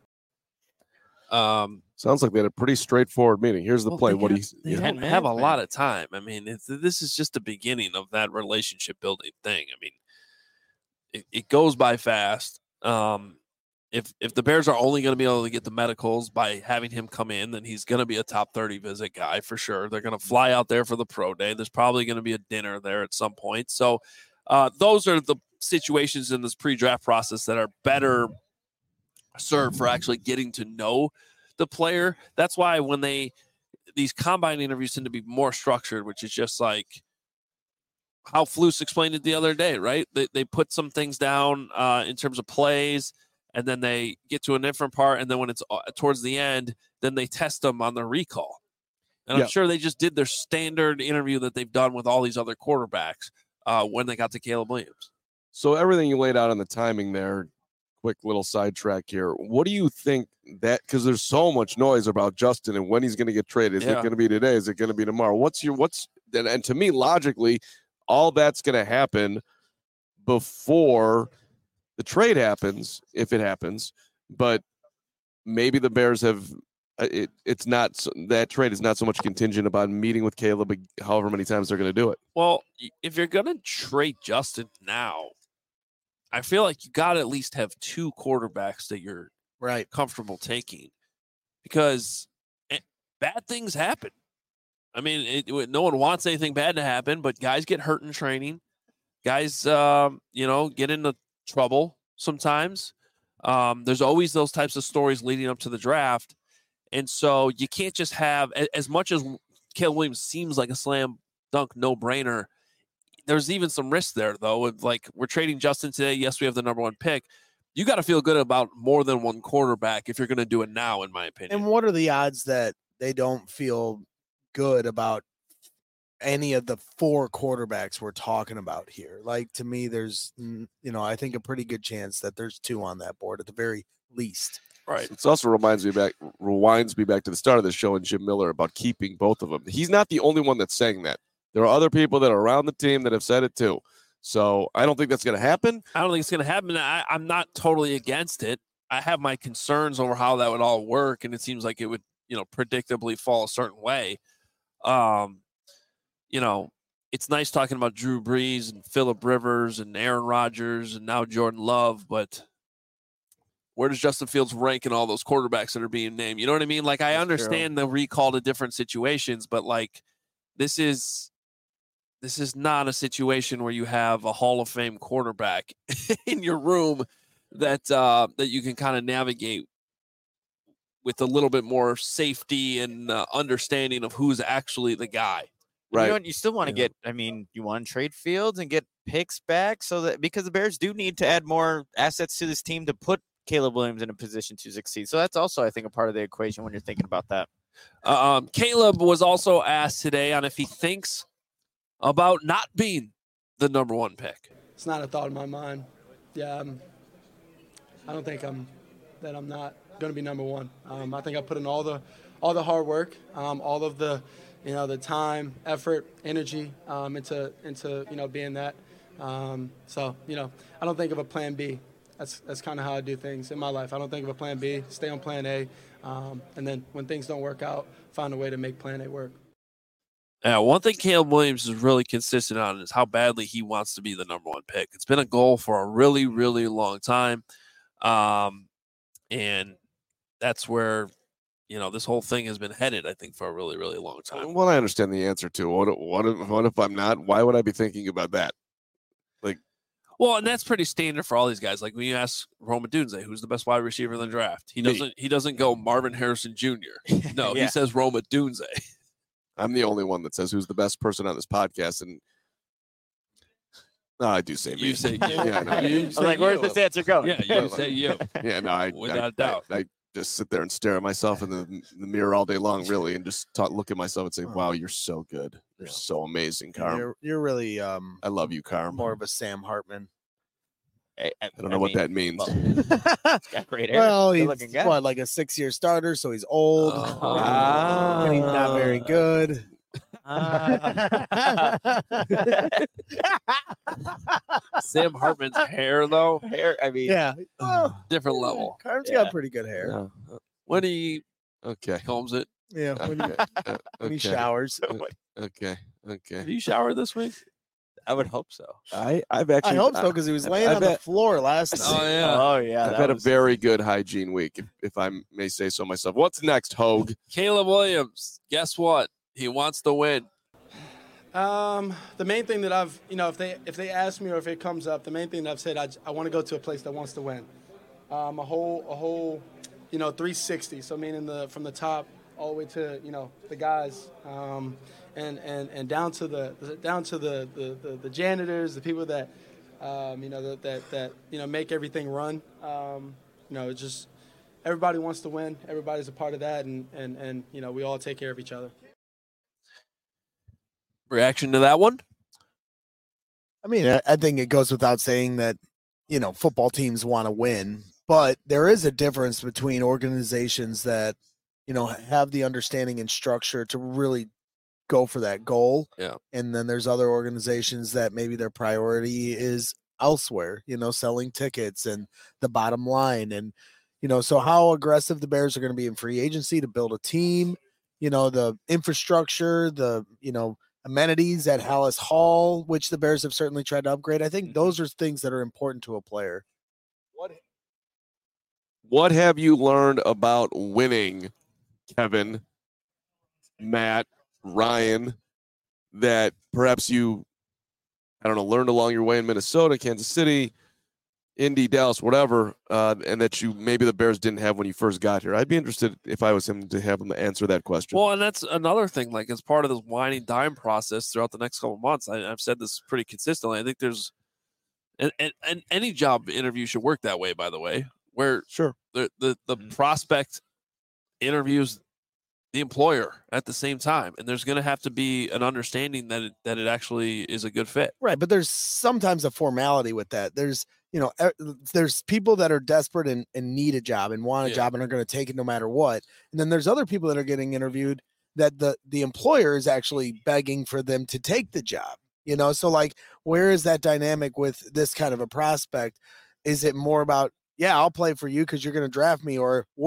Um, Sounds like they had a pretty straightforward meeting. Here's the well, play. they What have- he's they you know, don't ten have a minutes, lot man. of time. I mean, it's, this is just the beginning of that relationship building thing. I mean, it, it goes by fast. Um, if if the Bears are only going to be able to get the medicals by having him come in, then he's going to be a top thirty visit guy for sure. They're going to fly out there for the pro day. There's probably going to be a dinner there at some point. So uh, those are the situations in this pre-draft process that are better served for actually getting to know the player. That's why when they these combine interviews tend to be more structured, which is just like how Flus explained it the other day, right? They they put some things down uh, in terms of plays, and then they get to a different part, and then when it's uh, towards the end, then they test them on the recall. And Yeah. I'm sure they just did their standard interview that they've done with all these other quarterbacks uh, when they got to Caleb Williams. So everything you laid out on the timing there, quick little sidetrack here. What do you think that, because there's so much noise about Justin and when he's going to get traded? Is it Yeah. going to be today? Is it going to be tomorrow? What's your, what's, and, and to me, logically, all that's going to happen before the trade happens, if it happens. But maybe the Bears have, uh, it, it's not, so- that trade is not so much contingent about meeting with Caleb, however many times they're going to do it. Well, y- if you're going to trade Justin now, I feel like you got to at least have two quarterbacks that you're Right. comfortable taking, because eh, bad things happen. I mean, it, it- no one wants anything bad to happen, but guys get hurt in training. Guys, um, you know, get into trouble sometimes. Um, there's always those types of stories leading up to the draft. And so you can't just have, a- as much as Caleb Williams seems like a slam dunk no brainer, there's even some risk there, though. With like, we're trading Justin today. Yes, we have the number one pick. You got to feel good about more than one quarterback if you're going to do it now, in my opinion. And what are the odds that they don't feel good about any of the four quarterbacks we're talking about here? Like, to me, there's, mm, you know, I think a pretty good chance that there's two on that board at the very least. Right. It also reminds me back, rewinds me back to the start of the show and Jim Miller about keeping both of them. He's not the only one that's saying that. There are other people that are around the team that have said it too. So I don't think that's going to happen. I don't think it's going to happen. I, I'm not totally against it. I have my concerns over how that would all work, and it seems like it would, you know, predictably fall a certain way. Um, you know, it's nice talking about Drew Brees and Phillip Rivers and Aaron Rodgers and now Jordan Love, but where does Justin Fields rank in all those quarterbacks that are being named? You know what I mean? Like, I That's understand the recall to different situations, but like, this is this is not a situation where you have a Hall of Fame quarterback in your room that uh, that you can kind of navigate with a little bit more safety and uh, understanding of who's actually the guy. Right. You know what? You still want to Yeah. get. I mean, you want to trade Fields and get picks back, so that because the Bears do need to add more assets to this team to put Caleb Williams in a position to succeed. So that's also, I think, a part of the equation when you're thinking about that. Uh, um, Caleb was also asked today on if he thinks about not being the number one pick. It's not a thought in my mind. Yeah, I'm, I don't think I'm that I'm not going to be number one. Um, I think I put in all the all the hard work, um, all of the you know the time, effort, energy um, into into you know being that. Um, so you know I don't think of a plan B. That's that's kind of how I do things in my life. I don't think of a plan B. Stay on plan A, um, and then when things don't work out, find a way to make plan A work. Yeah, one thing Caleb Williams is really consistent on is how badly he wants to be the number one pick. It's been a goal for a really, really long time. Um, and that's where, you know, this whole thing has been headed, I think, for a really, really long time. Well, I understand the answer to what. What if, what if I'm not? Why would I be thinking about that? Well, and that's pretty standard for all these guys. Like when you ask Roma Dunze, who's the best wide receiver in the draft, he Me. doesn't he doesn't go Marvin Harrison Junior No, Yeah. he says Roma Dunze. I'm the only one that says who's the best person on this podcast, and no, I do say me. You say you. Yeah, no, You I was say like, where's you. this answer going? Yeah, you say you. yeah, no, I, Without I, a doubt. I, I just sit there and stare at myself in the, the mirror all day long, really, and just talk, look at myself and say, "Wow, you're so good. You're Yeah. so amazing, Carm. You're, you're really um, I love you, Carm. more of a Sam Hartman. I, I, I don't know what that means. well, he's got great hair. Well, he's Good-looking guy. what, like a six-year starter, so he's old. Oh. and he's not very good. Ah. Sam Hartman's hair, though, hair. I mean, Yeah. Well, different level. Carm's Yeah. got pretty good hair. Yeah. When he Okay. combs it. Yeah. When, he, Okay. uh, when he okay. showers. Okay. Okay. Have you showered this week? I would hope so. I I've I actually hope so because he was I- laying I on the bet- floor last night. Oh, yeah. Oh yeah. I've that had was- a very good hygiene week, if, if I may say so myself. What's next, Hogue? Caleb Williams, guess what? He wants to win. Um, the main thing that I've, you know, if they if they ask me or if it comes up, the main thing that I've said, I, I want to go to a place that wants to win. Um, a whole a whole, you know, three sixty. So meaning the from the top all the way to you know the guys, um, and and and down to the down to the the, the, the janitors, the people that, um, you know, that, that that you know make everything run. Um, you know, it's just everybody wants to win. Everybody's a part of that, and and and you know we all take care of each other. Reaction to that one? I mean, I, I think it goes without saying that, you know, football teams want to win, but there is a difference between organizations that, you know, have the understanding and structure to really go for that goal. Yeah. And then there's other organizations that maybe their priority is elsewhere, you know, selling tickets and the bottom line. And, you know, so how aggressive the Bears are going to be in free agency to build a team, you know, the infrastructure, the, you know, amenities at Hallis Hall, which the Bears have certainly tried to upgrade. I think those are things that are important to a player. What What have you learned about winning, Kevin, Matt, Ryan, that perhaps you, I don't know, learned along your way in Minnesota, Kansas City, Indy, Dallas, whatever, uh, and that you maybe the Bears didn't have when you first got here? I'd be interested if I was him to have him answer that question. Well, and that's another thing. Like, as part of this wine and dime process throughout the next couple of months, I, I've said this pretty consistently. I think there's, and, and, and any job interview should work that way, by the way, where Sure. the the, the Mhm. prospect interviews the employer at the same time, and there's going to have to be an understanding that it, that it actually is a good fit. Right, but there's sometimes a formality with that. There's, you know, e- there's people that are desperate and, and need a job and want a Yeah. job and are going to take it no matter what. And then there's other people that are getting interviewed that the the employer is actually begging for them to take the job. You know, so like, where is that dynamic with this kind of a prospect? Is it more about, yeah, I'll play for you because you're going to draft me, or what are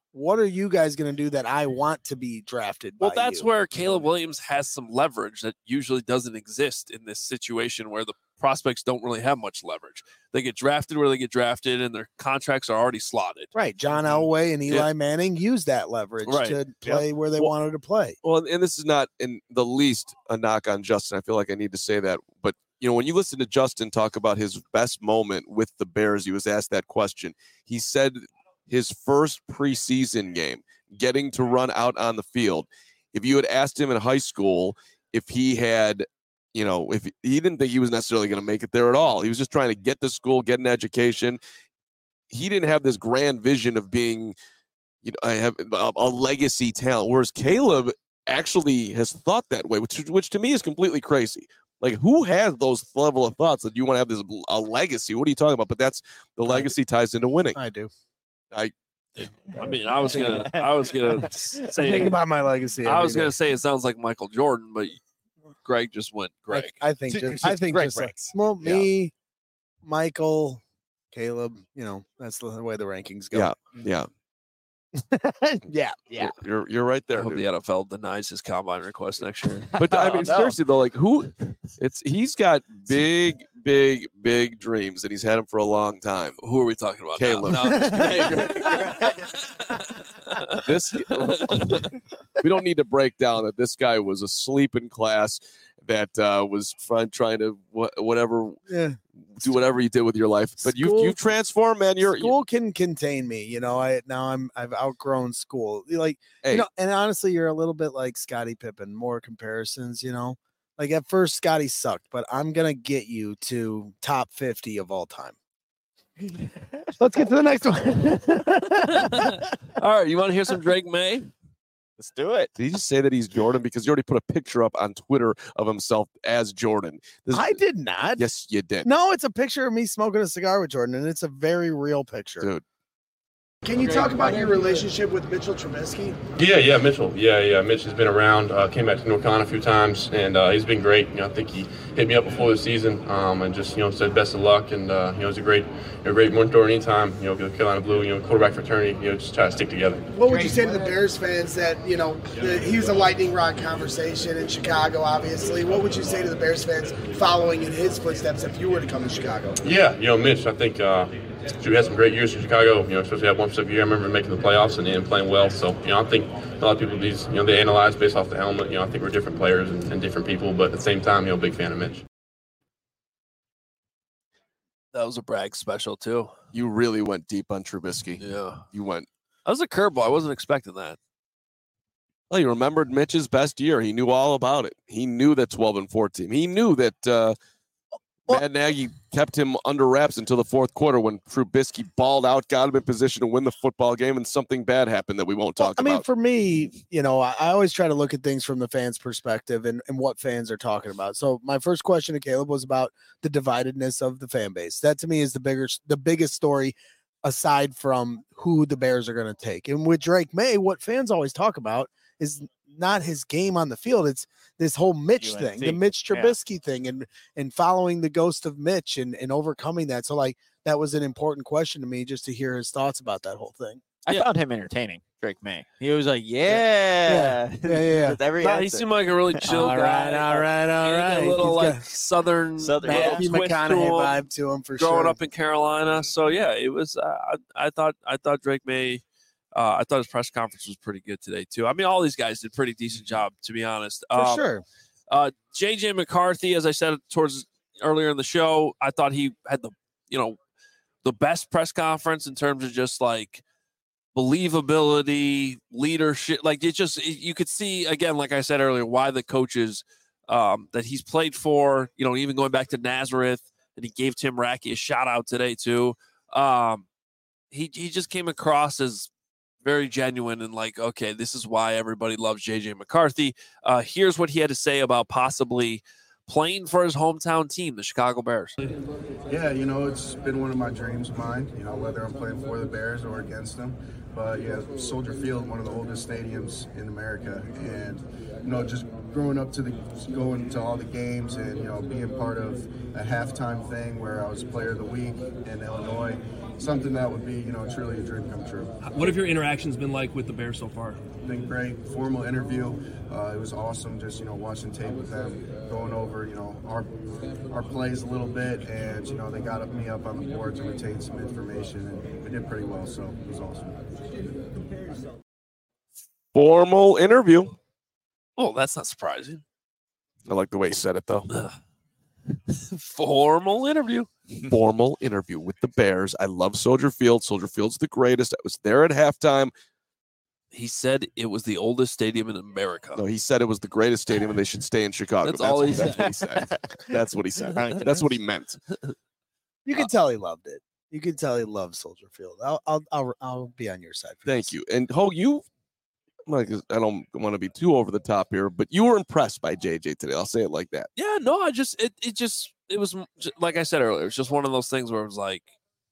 what are you guys going to do that I want to be drafted Well, by that's you? where Caleb Williams has some leverage that usually doesn't exist in this situation where the prospects don't really have much leverage. They get drafted where they get drafted, and their contracts are already slotted. Right. John Elway and Eli Yeah. Manning used that leverage Right. to play where they Well- wanted to play. Well, and this is not in the least a knock on Justin. I feel like I need to say that. But, you know, when you listen to Justin talk about his best moment with the Bears, he was asked that question. He said his first preseason game, getting to run out on the field. If you had asked him in high school if he had, you know, if he didn't think he was necessarily going to make it there at all, he was just trying to get to school, get an education. He didn't have this grand vision of being, you know, I have a, a legacy talent. Whereas Caleb actually has thought that way, which which to me is completely crazy. Like, who has those level of thoughts that you want to have this a legacy? What are you talking about? But that's the legacy ties into winning. I do. I I mean, I was gonna, I was gonna say, Think about my legacy. I every was gonna day. say it sounds like Michael Jordan, but Greg just went I, Greg. I think just, I think Greg just like, breaks. well, Yeah. me, Michael, Caleb, you know, that's the way the rankings go. Yeah. yeah, yeah. Yeah. you're you're right I there. hope dude. the N F L denies his combine request next year. But I Oh, mean, no. seriously though, like who? It's he's got big, big, big dreams, and he's had them for a long time. Who are we talking about? Caleb. Now? No, I'm just kidding. This we don't need to break down that this guy was asleep in class, that uh, was trying trying to wha- whatever Yeah. do whatever you did with your life. But you School- you've transformed, man. You're you, School can contain me, you know. I now I'm I've outgrown school. Like hey, you know, and honestly, you're a little bit like Scottie Pippen. More comparisons, you know. Like at first, Scottie sucked, but I'm gonna get you to top fifty of all time. Let's get to the next one. All right, you want to hear some Drake May? Let's do it. did he just say that he's Jordan because you already put a picture up on Twitter of himself as Jordan? This, I did not. yes, you did, No, it's a picture of me smoking a cigar with Jordan, and it's a very real picture. dude. Can you talk about your relationship with Mitchell Trubisky? Yeah, yeah, Mitchell. Yeah, yeah. Mitch has been around. Uh, came back to North Carolina a few times, and uh, he's been great. You know, I think he hit me up before the season, um, and just you know said best of luck. And uh, you know, he's a great, a great mentor anytime. You know, the Carolina Blue, you know, quarterback fraternity. You know, just try to stick together. What would you say to the Bears fans that, you know, the, he was a lightning rod conversation in Chicago, obviously. What would you say to the Bears fans following in his footsteps if you were to come to Chicago? Yeah, you know, Mitch. I think uh, we had some great years in Chicago. You know, especially that one specific year. I remember making the playoffs and then playing well. So you know, I think a lot of people these you know they analyze based off the helmet. You know, I think we're different players and, and different people, but at the same time, you know, big fan of Mitch. That was a brag special too. You really went deep on Trubisky. Yeah, You went. that was a curveball. I wasn't expecting that. Well, he remembered Mitch's best year. He knew all about it. He knew that twelve and four team. He knew that uh, Well- Matt Nagy kept him under wraps until the fourth quarter when Trubisky balled out, got him in position to win the football game, and something bad happened that we won't Well, talk I mean, about. for me, you know, I, I always try to look at things from the fans' perspective and, and what fans are talking about. So my first question to Caleb was about the dividedness of the fan base. That to me is the bigger, the biggest story aside from who the Bears are going to take. And with Drake May, what fans always talk about is not his game on the field. It's this whole Mitch U N thing, C, the Mitch yeah. Trubisky thing, and and following the ghost of Mitch and, and overcoming that. So like that was an important question to me just to hear his thoughts about that whole thing. I Yeah. found him entertaining, Drake May. He was like, yeah. Yeah, yeah, yeah. With every Nah, he answer. seemed like a really chill All guy. right, all right, all He had right. A little He's like got southern, Southern- little Matthew twist to McConaughey him, vibe to him for growing sure. up in Carolina. So yeah, it was. Uh, I, I thought I thought Drake May. Uh, I thought his press conference was pretty good today too. I mean, all these guys did a pretty decent job, to be honest. for Um, sure. Uh, J J McCarthy, as I said towards earlier in the show, I thought he had the you know the best press conference in terms of just like believability, leadership. Like it just you could see again, like I said earlier, why the coaches um, that he's played for. You know, even going back to Nazareth, and he gave Tim Rackey a shout out today too. Um, he he just came across as very genuine and like, okay, this is why everybody loves J J McCarthy. Uh, here's what he had to say about possibly playing for his hometown team, the Chicago Bears. Yeah, you know, it's been one of my dreams of mine, you know, whether I'm playing for the Bears or against them. But yeah, Soldier Field, one of the oldest stadiums in America, and you know, just growing up to the going to all the games, and you know, being part of a halftime thing where I was Player of the Week in Illinois, something that would be, you know, truly a dream come true. What have your interactions been like with the Bears so far? Been great. Formal interview. Uh, it was awesome. Just you know, watching tape with them, going over you know our our plays a little bit, and you know, they got me up on the board to retain some information, and we did pretty well. So it was awesome. Formal interview. Oh, that's not surprising. I like the way he said it, though. Formal interview. Formal interview with the Bears. I love Soldier Field. Soldier Field's the greatest. I was there at halftime. He said it was the oldest stadium in America. No, he said it was the greatest stadium and they should stay in Chicago. That's, all he that's said. What he said. That's what he said. That's what he meant. You can tell he loved it. You can tell he loves Soldier Field. I'll I'll I'll, I'll be on your side. For Thank this. you. And Ho, you, like, I don't want to be too over the top here, but you were impressed by J J today. I'll say it like that. Yeah, no, I just it it just it was like I said earlier. It's just one of those things where it was like,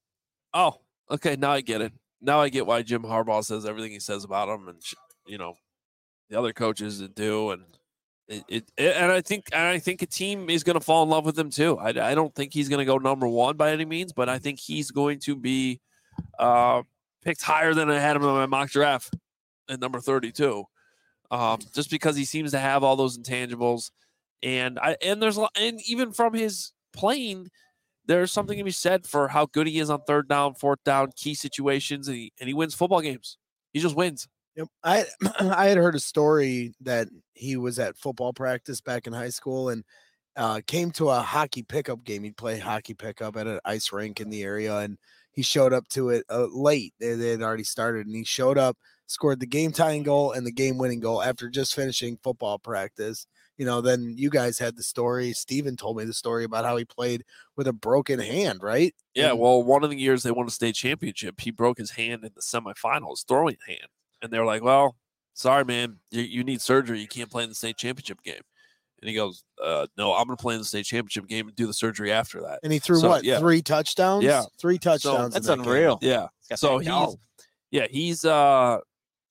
oh, okay, now I get it. Now I get why Jim Harbaugh says everything he says about him, and you know, the other coaches that do, and it, it, it and I think and I think a team is going to fall in love with him too. I, I don't think he's going to go number one by any means, but I think he's going to be uh, picked higher than I had him in my mock draft at number thirty-two, um, just because he seems to have all those intangibles, and I and there's a lot, and even from his playing, there's something to be said for how good he is on third down, fourth down, key situations, and he, and he wins football games. He just wins. Yep. I I had heard a story that he was at football practice back in high school and uh, came to a hockey pickup game. He'd play hockey pickup at an ice rink in the area, and he showed up to it uh, late. They, they had already started, and he showed up, scored the game tying goal and the game winning goal after just finishing football practice. You know, then you guys had the story. Steven told me the story about how he played with a broken hand, right? Yeah, And- well, one of the years they won a state championship, he broke his hand in the semifinals, throwing hand. And they were like, well, sorry, man, you, you need surgery. You can't play in the state championship game. And he goes, uh, no, I'm going to play in the state championship game and do the surgery after that. And he threw So, what? yeah. Three touchdowns? Yeah. Three touchdowns. That's in that game. unreal. Yeah. got So that he's, dog. yeah, he's, uh,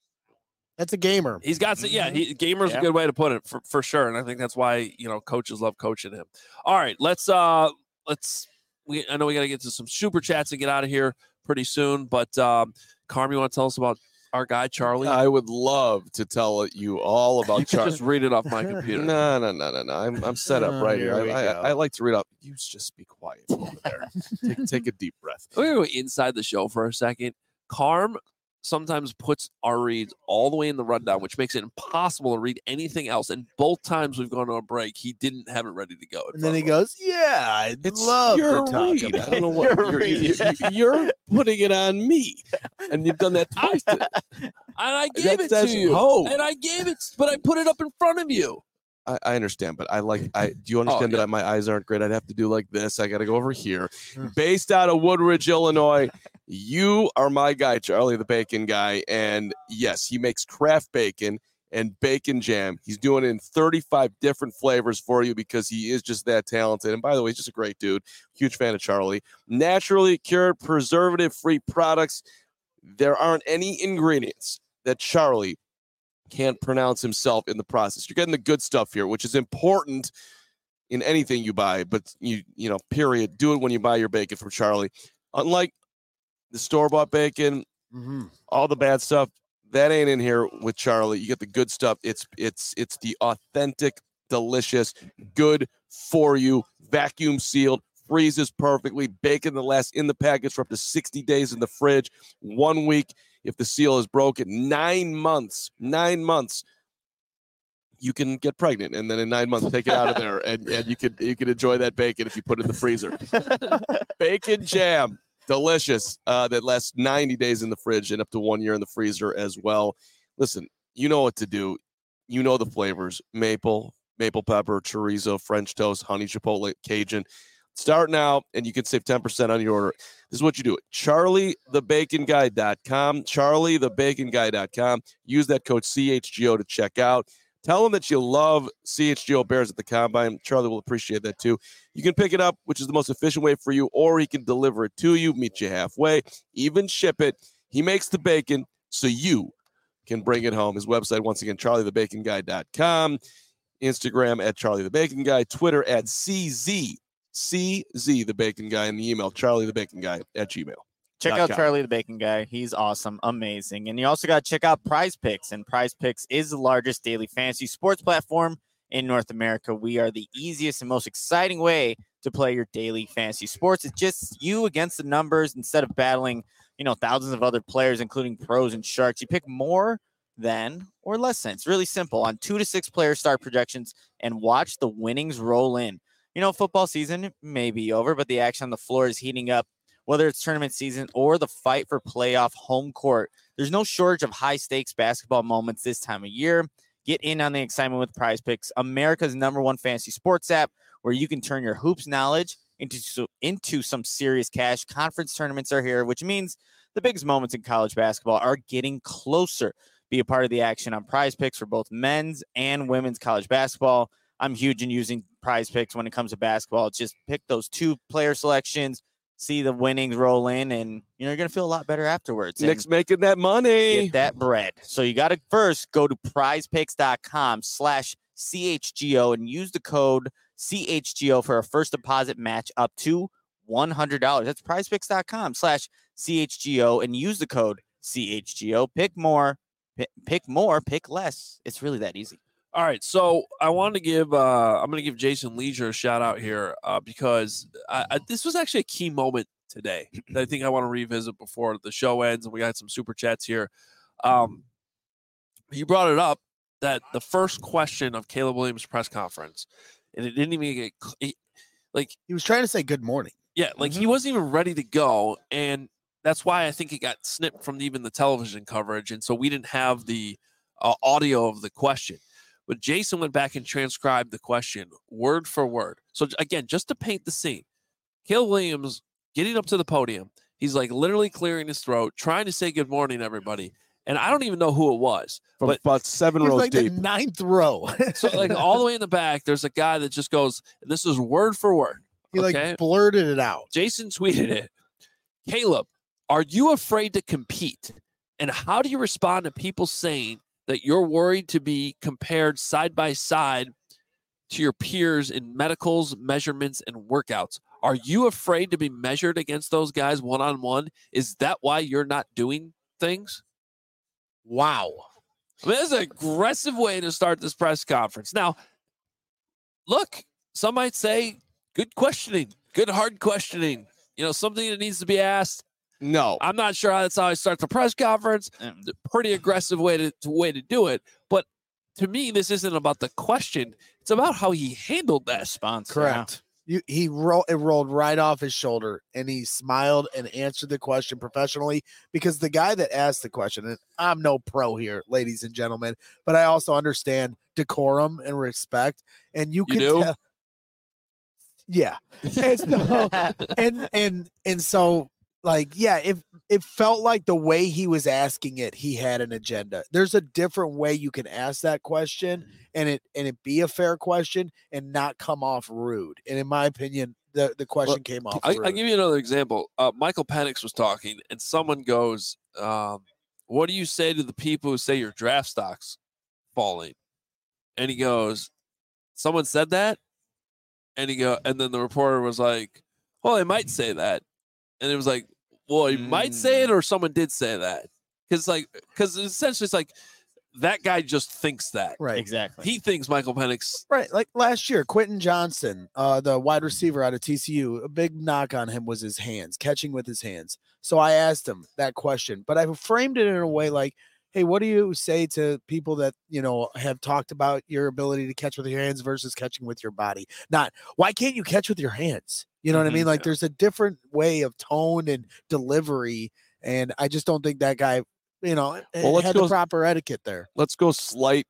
That's a gamer. he's got, to, yeah, he, gamer's Yeah. a good way to put it for, for sure. And I think that's why, you know, coaches love coaching him. All right, let's, uh, let's, we, I know we got to get to some super chats and get out of here pretty soon, but, um, Carm, you want to tell us about our guy, Charlie? I would love to tell you all you about can Charlie. just read it off my computer. No, no, no, no, no. I'm, I'm set up Oh, right here. here we I, go. I, I like to read up. You just be quiet over there. take, take a deep breath. We're going to go inside the show for a second. Carm sometimes puts our reads all the way in the rundown, which makes it impossible to read anything else. And both times we've gone to a break, he didn't have it ready to go. in And then he front of goes, yeah, I'd It's love your to talk read. about I don't know it." what Your you're, read. you- you're putting it on me, and you've done that twice. today. us. And I gave That's- it that's- to you. oh. And I gave it, but I put it up in front of you. I, I understand, but I like. I do you understand yeah. that my eyes aren't great? I'd have to do like this. I got to go over here. Hmm. Based out of Woodridge, Illinois, you are my guy, Charlie, the bacon guy, and yes, he makes craft bacon and bacon jam. He's doing it in thirty-five different flavors for you because he is just that talented. And by the way, he's just a great dude. Huge fan of Charlie. Naturally cured, preservative-free products. There aren't any ingredients that Charlie can't pronounce himself in the process. You're getting the good stuff here, which is important in anything you buy, but you you know, period. Do it when you buy your bacon from Charlie. Unlike the store-bought bacon, Mhm. all the bad stuff, that ain't in here with Charlie. You get the good stuff. It's it's it's the authentic, delicious, good for you, vacuum sealed, freezes perfectly, bacon that lasts in the package for up to sixty days in the fridge, one week if the seal is broken, nine months, nine months. You can get pregnant, and then in nine months take it out of there, and, and you could you could enjoy that bacon if you put it in the freezer. Bacon jam, delicious. Uh, that lasts ninety days in the fridge and up to one year in the freezer as well. Listen, you know what to do. You know the flavors: maple, maple pepper, chorizo, French toast, honey chipotle, Cajun. Start now, and you can save ten percent on your order. This is what you do: charlie the bacon guy dot com, charlie the bacon guy dot com. Use that code C H G O to check out. Tell them that you love C H G O Bears at the Combine. Charlie will appreciate that too. You can pick it up, which is the most efficient way for you, or he can deliver it to you, meet you halfway, even ship it. He makes the bacon, so you can bring it home. His website, once again, charlie the bacon guy dot com, Instagram at Charlie the Bacon Guy, Twitter at C Z, C Z the Bacon Guy, and the email charlie the bacon guy at gmail. Check out Charlie the Bacon Guy. He's awesome, amazing. And you also got to check out Prize Picks. And Prize Picks is the largest daily fantasy sports platform in North America. We are the easiest and most exciting way to play your daily fantasy sports. It's just you against the numbers instead of battling, you know, thousands of other players, including pros and sharks. You pick more than or less than. It's really simple on two to six player start projections and watch the winnings roll in. You know, football season may be over, but the action on the floor is heating up. Whether it's tournament season or the fight for playoff home court, there's no shortage of high-stakes basketball moments this time of year. Get in on the excitement with Prize Picks, America's number one fantasy sports app, where you can turn your hoops knowledge into, into some serious cash. Conference tournaments are here, which means the biggest moments in college basketball are getting closer. Be a part of the action on Prize Picks for both men's and women's college basketball. I'm huge in using Prize Picks when it comes to basketball. Just pick those two player selections, see the winnings roll in, and you know you're gonna feel a lot better afterwards. Nick's making that money. Get that bread. So you got to first go to prizepicks.com slash CHGO and use the code C H G O for a first deposit match up to one hundred dollars. That's prizepicks.com slash CHGO and use the code C H G O. Pick more, pick, pick more, pick less. It's really that easy. All right, so I want to give uh, I'm going to give Jason Leisure a shout out here uh, because I, I, this was actually a key moment today that I think I want to revisit before the show ends, and we got some super chats here. Um, you brought it up that the first question of Caleb Williams' press conference, and it didn't even get it, like he was trying to say good morning. Yeah, like Mm-hmm. he wasn't even ready to go, and that's why I think it got snipped from even the television coverage, and so we didn't have the uh, audio of the question. But Jason went back and transcribed the question word for word. So again, just to paint the scene, Caleb Williams getting up to the podium, he's like literally clearing his throat, trying to say good morning, everybody. And I don't even know who it was. From but about seven He was rows like deep. the ninth row. so like all the way in the back, there's a guy that just goes, and this is word for word. He okay? like blurted it out. Jason tweeted it. Caleb, are you afraid to compete? And how do you respond to people saying that you're worried to be compared side by side to your peers in medicals, measurements, and workouts? Are you afraid to be measured against those guys one-on-one? Is that why you're not doing things? Wow. I mean, that's an aggressive way to start this press conference. Now, look, some might say good questioning, good hard questioning, you know, something that needs to be asked. No, I'm not sure how that's how I start the press conference. It's a pretty aggressive way to, to way to do it. But to me, this isn't about the question. It's about how he handled that response. Correct. You, he rolled it rolled right off his shoulder, and he smiled and answered the question professionally, because the guy that asked the question, and I'm no pro here, ladies and gentlemen, but I also understand decorum and respect, and you can You do? tell. Yeah, and so, and and and so like yeah, if it felt like the way he was asking it, he had an agenda. There's a different way you can ask that question and it and it be a fair question and not come off rude. And in my opinion, the, the question Well, came off I, rude. I'll give you another example. Uh, Michael Penix was talking, and someone goes, um, what do you say to the people who say your draft stock's falling? And he goes, someone said that? And he go, and then the reporter was like, well, they might say that. And it was like, well, he might say it, or someone did say that. Because like, because essentially it's like that guy just thinks that. Right. Exactly. He thinks Michael Penix. Right, like last year, Quentin Johnson, uh, the wide receiver out of T C U, a big knock on him was his hands, catching with his hands. So I asked him that question, but I framed it in a way like, hey, what do you say to people that, you know, have talked about your ability to catch with your hands versus catching with your body? Not, why can't you catch with your hands? You know what I mean? Like there's a different way of tone and delivery, and I just don't think that guy, you know, Well, let's had go- the proper etiquette there. Let's go slight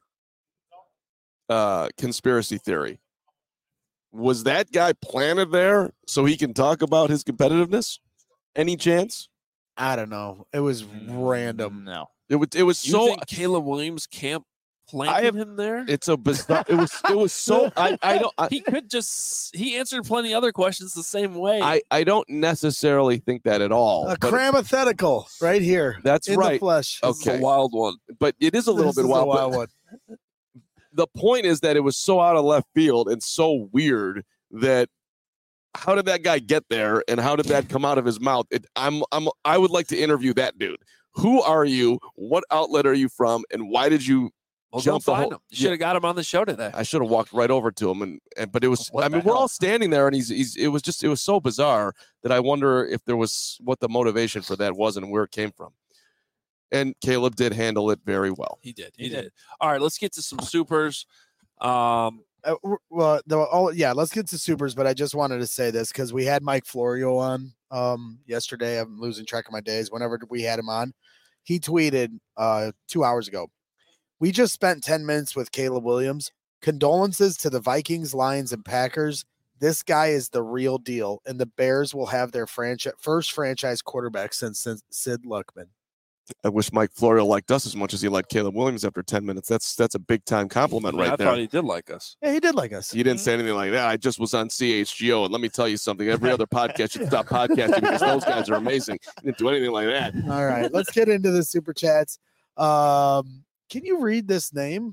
uh, conspiracy theory. Was that guy planted there so he can talk about his competitiveness? Any chance? I don't know. It was random. No. It was. It was You so. think Caleb Williams can't planting have- him there? It's a bizarre. It was. It was so. I. I don't. I, he could just he answered plenty other questions the same way. I. I don't necessarily think that at all. A but crammathetical right here. That's in right. The flesh. This is okay. a wild one. But it is a little This bit is a wild. wild but one. the point is that it was so out of left field and so weird that how did that guy get there and how did that come out of his mouth? It, I'm. I'm. I would like to interview that dude. Who are you? What outlet are you from? And why did you? Well, jump go the find whole- him. You should have got him on the show today. I should have walked right over to him, and, and but it was. What I the mean, we're hell? all standing there, and he's he's. It was just. It was so bizarre that I wonder if there was what the motivation for that was and where it came from. And Caleb did handle it very well. He did. He, he did. did. All right, let's get to some supers. Um, Uh, well, the, all, yeah, let's get to supers, but I just wanted to say this because we had Mike Florio on um, yesterday. I'm losing track of my days. Whenever we had him on, he tweeted uh, two hours ago. We just spent ten minutes with Caleb Williams. Condolences to the Vikings, Lions, and Packers. This guy is the real deal, and the Bears will have their franchise first franchise quarterback since, since Sid Luckman. I wish Mike Florio liked us as much as he liked Caleb Williams after ten minutes. That's that's a big time compliment I mean, right I there. thought he did like us. Yeah, he did like us. You didn't say anything like that. I just was on C H G O, and let me tell you something. Every other podcast should stop podcasting because those guys are amazing. You didn't do anything like that. All right, let's get into the super chats. Um, can you read this name?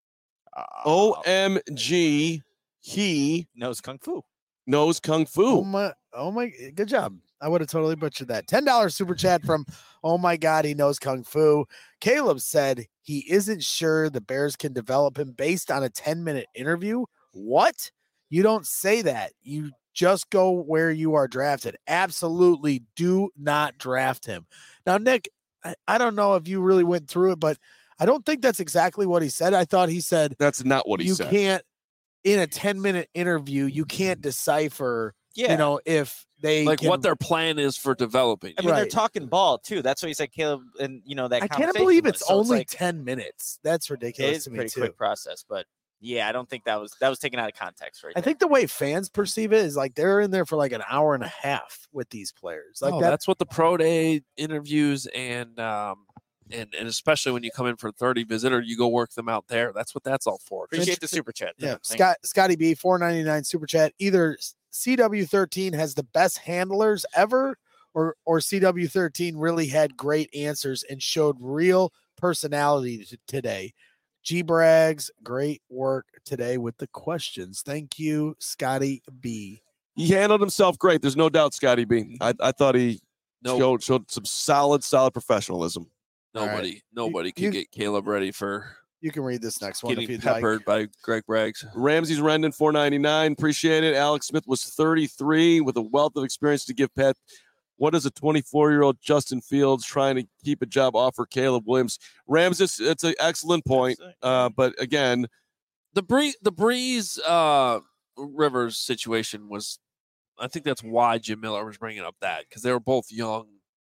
O M G, he knows Kung Fu. knows Kung Fu. Oh my, oh my, good job. I would have totally butchered that. ten dollars super chat from, oh my God, he knows Kung Fu. Caleb said he isn't sure the Bears can develop him based on a ten minute interview. What? You don't say that. You just go where you are drafted. Absolutely do not draft him. Now, Nick, I, I don't know if you really went through it, but I don't think that's exactly what he said. I thought he said That's not what he you said. can't, in a ten minute interview, you can't decipher, Yeah. you know, if they Like can- what their plan is for developing. I mean, they're Right. talking ball too. That's what he said, Caleb. And you know that I can't conversation believe was. it's So only like, ten minutes. That's it ridiculous is to a me pretty too. quick process, but yeah, I don't think that was that was taken out of context, right? I think the way fans perceive it is like they're in there for like an hour and a half with these players. Like Oh, that, that's what the pro day interviews and um and and especially when you come in for thirty visitor, you go work them out there. That's what that's all for. Appreciate the super chat. yeah. Thank Scott Scotty B four ninety-nine super chat. Either C W thirteen has the best handlers ever, or or C W thirteen really had great answers and showed real personality t- today. G Brags, great work today with the questions. Thank you, Scotty B. He handled himself great. There's no doubt, Scotty B. I, I thought he No. showed showed some solid, solid professionalism. Nobody, right. nobody You- can you- get Caleb ready for You can read this next one if getting you'd like. peppered by Greg Braggs. Ramsey's Rendon, four ninety-nine. Appreciate it. Alex Smith was thirty-three with a wealth of experience to give Pat. What is a twenty-four-year-old Justin Fields trying to keep a job offer Caleb Williams? Rams, it's, it's an excellent point. Uh, but again, The Bree, the Breeze uh, Rivers situation was, I think that's why Jim Miller was bringing up that because they were both young.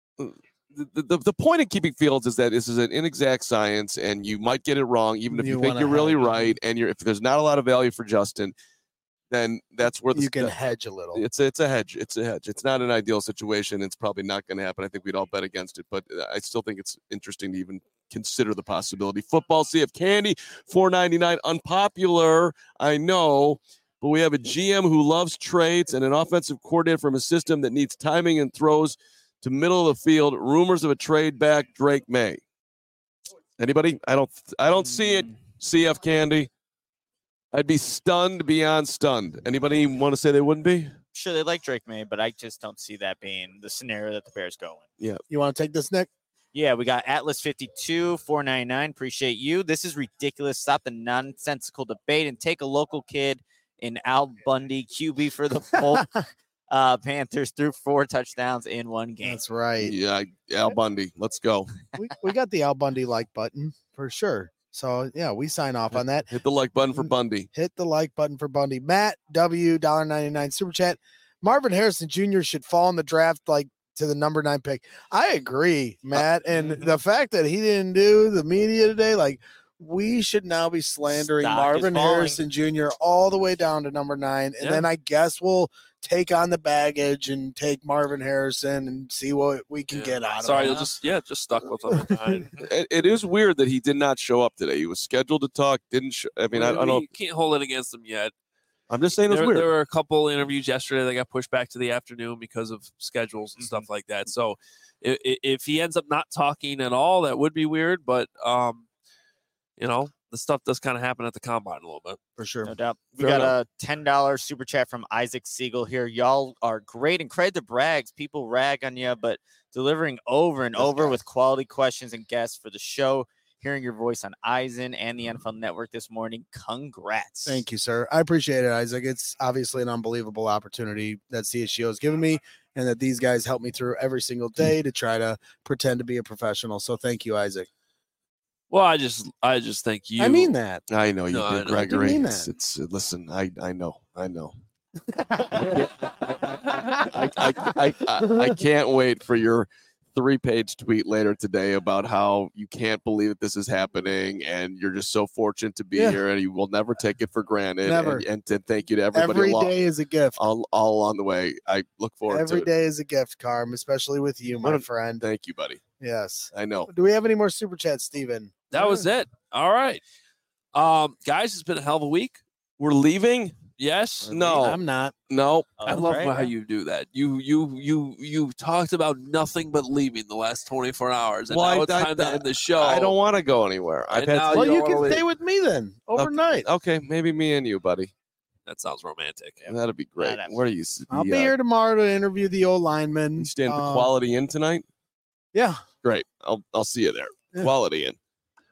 the, the, the point of keeping Fields is that this is an inexact science and you might get it wrong, even if you, You think wanna you're really hedge. right. And you're, if there's not a lot of value for Justin, then that's where the You can the- hedge a little. It's a, it's a hedge. It's a hedge. It's not an ideal situation. It's probably not going to happen. I think we'd all bet against it, but uh, I still think it's interesting to even consider the possibility. Football C F Candy, four ninety-nine. Unpopular, I know, but we have a G M who loves trades and an offensive coordinator from a system that needs timing and throws to middle of the field. Rumors of a trade back, Drake May. Anybody? I don't. I don't see it. C F Candy. I'd be stunned beyond stunned. Anybody want to say they wouldn't be? Sure, they like Drake May, but I just don't see that being the scenario that the Bears go in. Yeah. You want to take this, Nick? Yeah, we got Atlas fifty-two, four ninety-nine. Appreciate you. This is ridiculous. Stop the nonsensical debate and take a local kid in Al Bundy, Q B for the Bolt. uh, Panthers threw four touchdowns in one game. That's right. Yeah, Al Bundy. Let's go. we, we got the Al Bundy like button for sure. So yeah, we sign off on that. Hit the like button for Bundy. Hit the like button for Bundy. Matt W one ninety-nine super chat. Marvin Harrison Junior should fall in the draft like to the number nine pick. I agree, Matt. And the fact that he didn't do the media today, like we should now be slandering Stock is Marvin falling. Harrison Junior all the way down to number nine. And Yeah. then I guess we'll take on the baggage and take Marvin Harrison and see what we can Yeah. get out Sorry, of you'll it. just yeah, just stuck with him. It, it is weird that he did not show up today. He was scheduled to talk, didn't. Sh- I mean, I, I don't. You can't hold it against him yet. I'm just saying it's There, weird. there were a couple interviews yesterday that got pushed back to the afternoon because of schedules and stuff like that. So if, if he ends up not talking at all, that would be weird. But um, you know, the stuff does kind of happen at the combine a little bit. For sure. No doubt. We Fair got enough. a ten dollars super chat from Isaac Siegel here. Y'all are great and credit to Brags. People rag on you, but delivering over and over with quality questions and guests for the show. Hearing your voice on Eisen and the N F L Network this morning. Congrats. Thank you, sir. I appreciate it, Isaac. It's obviously an unbelievable opportunity that C H G O has given me and that these guys help me through every single day to try to pretend to be a professional. So thank you, Isaac. Well, I just I just think you. I mean that. I know you No, I did, know. I didn't Gregory. mean It's, that. it's uh, listen. I I know. I know. I, I, I, I, I can't wait for your three-page tweet later today about how you can't believe that this is happening and you're just so fortunate to be Yeah. here and you will never take it for granted. Never. And, and to thank you to everybody Every along, day is a gift. all, all along the way. I look forward Every to day is a gift, Carm, especially with you, my What a- friend. it. Thank you, buddy. Yes. I know. Do we have any more super chats, Steven? That was it. All right, um, guys, it's been a hell of a week. We're leaving? Yes. No. I'm not. No. I love how you do that. You you you you talked about nothing but leaving the last twenty-four hours, and Well, now I- it's I- time to end the show. I don't want to go anywhere. I've And had now Well, you you don't can wanna stay leave. with me then overnight. Okay, maybe me and you, buddy. That sounds romantic. That'd be great. That'd- Where are you? s- I'll the, be uh, here tomorrow to interview the old lineman. You staying for Um, Quality In tonight? Yeah. Great. I'll I'll see you there. Yeah. Quality In.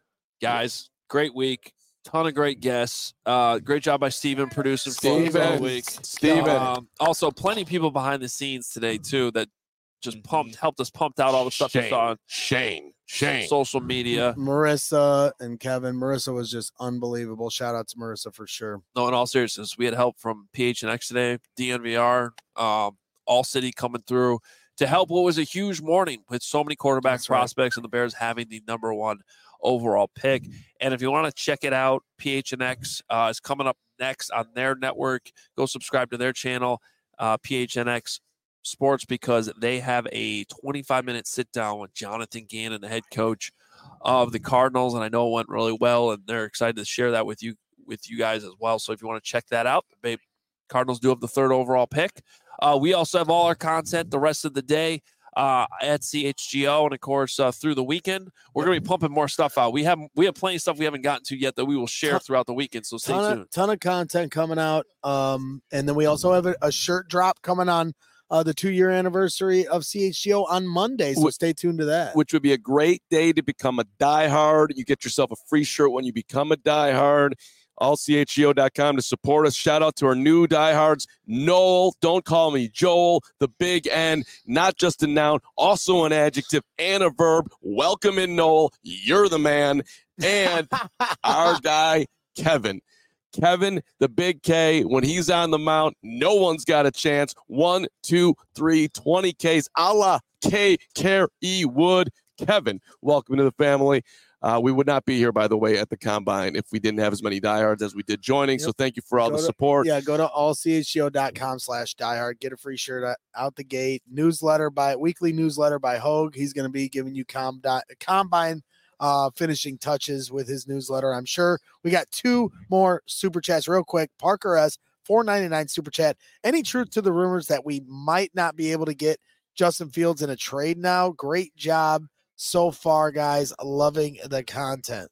Guys, great week. Ton of great guests. Uh, great job by Steven producing for us all Steven. week. Steven. Um, also, plenty of people behind the scenes today too that just pumped, helped us pumped out all the stuff you Shane. saw on Shane. Shane. social media. Marissa and Kevin. Marissa was just unbelievable. Shout out to Marissa for sure. No, in all seriousness, we had help from P H N X today, D N V R, um, All City coming through to help what was a huge morning with so many quarterback That's right. prospects and the Bears having the number one overall pick. And if you want to check it out, P H N X uh, is coming up next on their network. Go subscribe to their channel, uh, P H N X Sports, because they have a twenty-five minute sit down with Jonathan Gannon, the head coach of the Cardinals. And I know it went really well, and they're excited to share that with you with you guys as well. So if you want to check that out, the Cardinals do have the third overall pick. Uh, we also have all our content the rest of the day uh, at C H G O, and of course uh, through the weekend we're going to be pumping more stuff out. We have we have plenty of stuff we haven't gotten to yet that we will share Ton- throughout the weekend. So stay Ton tuned. of, ton of content coming out. Um, and then we also have a, a shirt drop coming on uh, the two year anniversary of C H G O on Monday. So Wh- stay tuned to that. Which would be a great day to become a diehard. You get yourself a free shirt when you become a diehard. all C H G O dot com to support us. Shout out to our new diehards, Noel, don't call me Joel, the big N, not just a noun, also an adjective and a verb. Welcome in, Noel. You're the man. And our guy, Kevin. Kevin, the big K, when he's on the mount, no one's got a chance. One, two, three, twenty Ks, a la K, Care E Wood. Kevin, welcome to the family. Uh, we would not be here, by the way, at the Combine if we didn't have as many diehards as we did joining. Yep. So thank you for all Go the to- support. Yeah, go to all C H G O dot com slash diehard. Get a free shirt out, out the gate. Newsletter by weekly newsletter by Hogue. He's going to be giving you com, dot, combine uh, finishing touches with his newsletter, I'm sure. We got two more super chats real quick. Parker S, four ninety-nine super chat. Any truth to the rumors that we might not be able to get Justin Fields in a trade now? Great job so far, guys. Loving the content.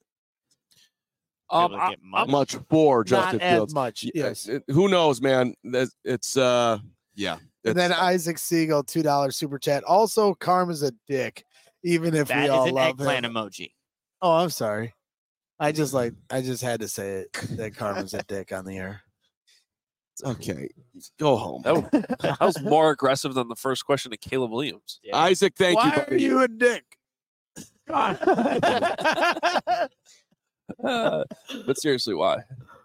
Um, Able to I, get much. Much for Justin not as Fields. much. Yeah, Yes. it- who knows, man? That's- It's, uh, yeah. And then it's- Isaac Siegel, two dollars super chat. Also, Carm is a dick, even if That we is all an love eggplant him. emoji. Oh, I'm sorry. I just like I just had to say it that Carm is a dick on the air. okay, go home. that, was, that was more aggressive than the first question to Caleb Williams. Yeah. Isaac, thank Why you. are buddy. you a dick? Uh, but seriously, why?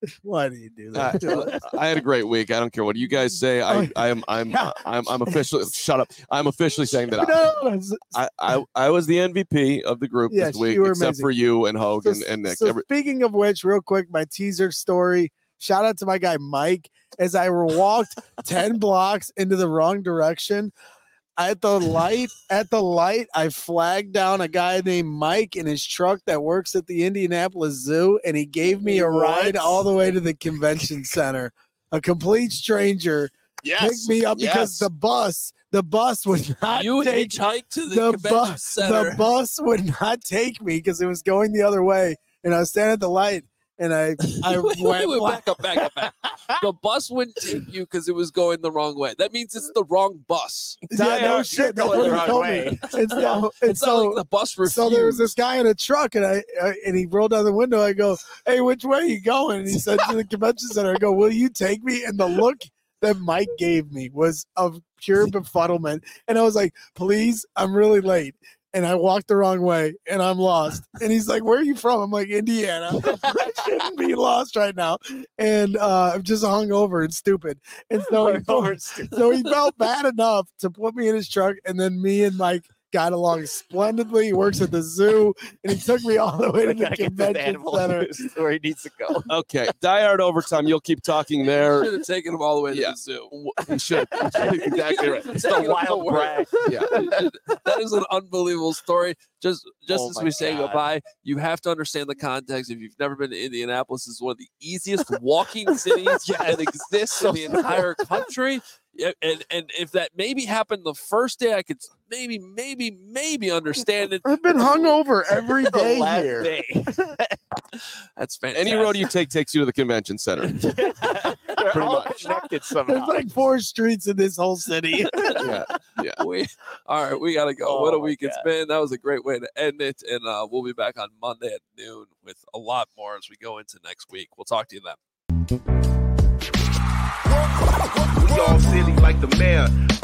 Why do you do that? Uh, I had a great week. I don't care what you guys say. I, I am, I'm, I'm, I'm officially. Shut up. I'm officially saying that No, no, no. I, I, I was the M V P of the group Yes, this week, you were except amazing. for you and Hogue So, and, and Nick. so Every- speaking of which, real quick, my teaser story. Shout out to my guy Mike. As I walked ten blocks into the wrong direction, at the light, at the light, I flagged down a guy named Mike in his truck that works at the Indianapolis Zoo, and he gave me a ride all the way to the convention center. A complete stranger picked me up because yes. the bus, the bus would not You take hitchhiked to the, the convention bus. center. The bus would not take me because it was going the other way, and I was standing at the light, and I I wait, wait, went wait, black. back up, back up, back up. The bus wouldn't take you because it was going the wrong way. That means it's the wrong bus. Yeah, no shit. That's what he told me. And so, and It's not so, like the bus refused. so there was this guy in a truck, and I, I and he rolled down the window. I go, "Hey, which way are you going?" And he said to the convention center. I go, "Will you take me?" And the look that Mike gave me was of pure befuddlement, and I was like, "Please, I'm really late." And I walked the wrong way, and I'm lost. And he's like, "Where are you from?" I'm like, "Indiana." I shouldn't be lost right now, and uh, I'm just hungover and stupid. And so he, felt, so he felt bad enough to put me in his truck, and then me and Mike got along splendidly. He works at the zoo, and he took me all the way to the convention center. Where he needs to go. Okay, Die Hard Overtime. You'll keep talking there. Should have taken him all the way to Yeah. the zoo. You should. Exactly right. It's the wild brag. Yeah. That is an unbelievable story. Just just Oh as my we say God. goodbye, you have to understand the context. If you've never been to Indianapolis, it's one of the easiest walking cities that exists in the entire country. Yeah, and and if that maybe happened the first day, I could maybe maybe maybe understand it. I've been hungover every day Last here. day. That's fantastic. Any road you take takes you to the convention center. They're Pretty all much. connected There's somehow. like four streets in this whole city. Yeah. we all right, we gotta go. what Oh a my week it's God. been. That was a great way to end it. And uh, we'll be back on Monday at noon with a lot more as we go into next week. We'll talk to you then. We all silly like the mayor.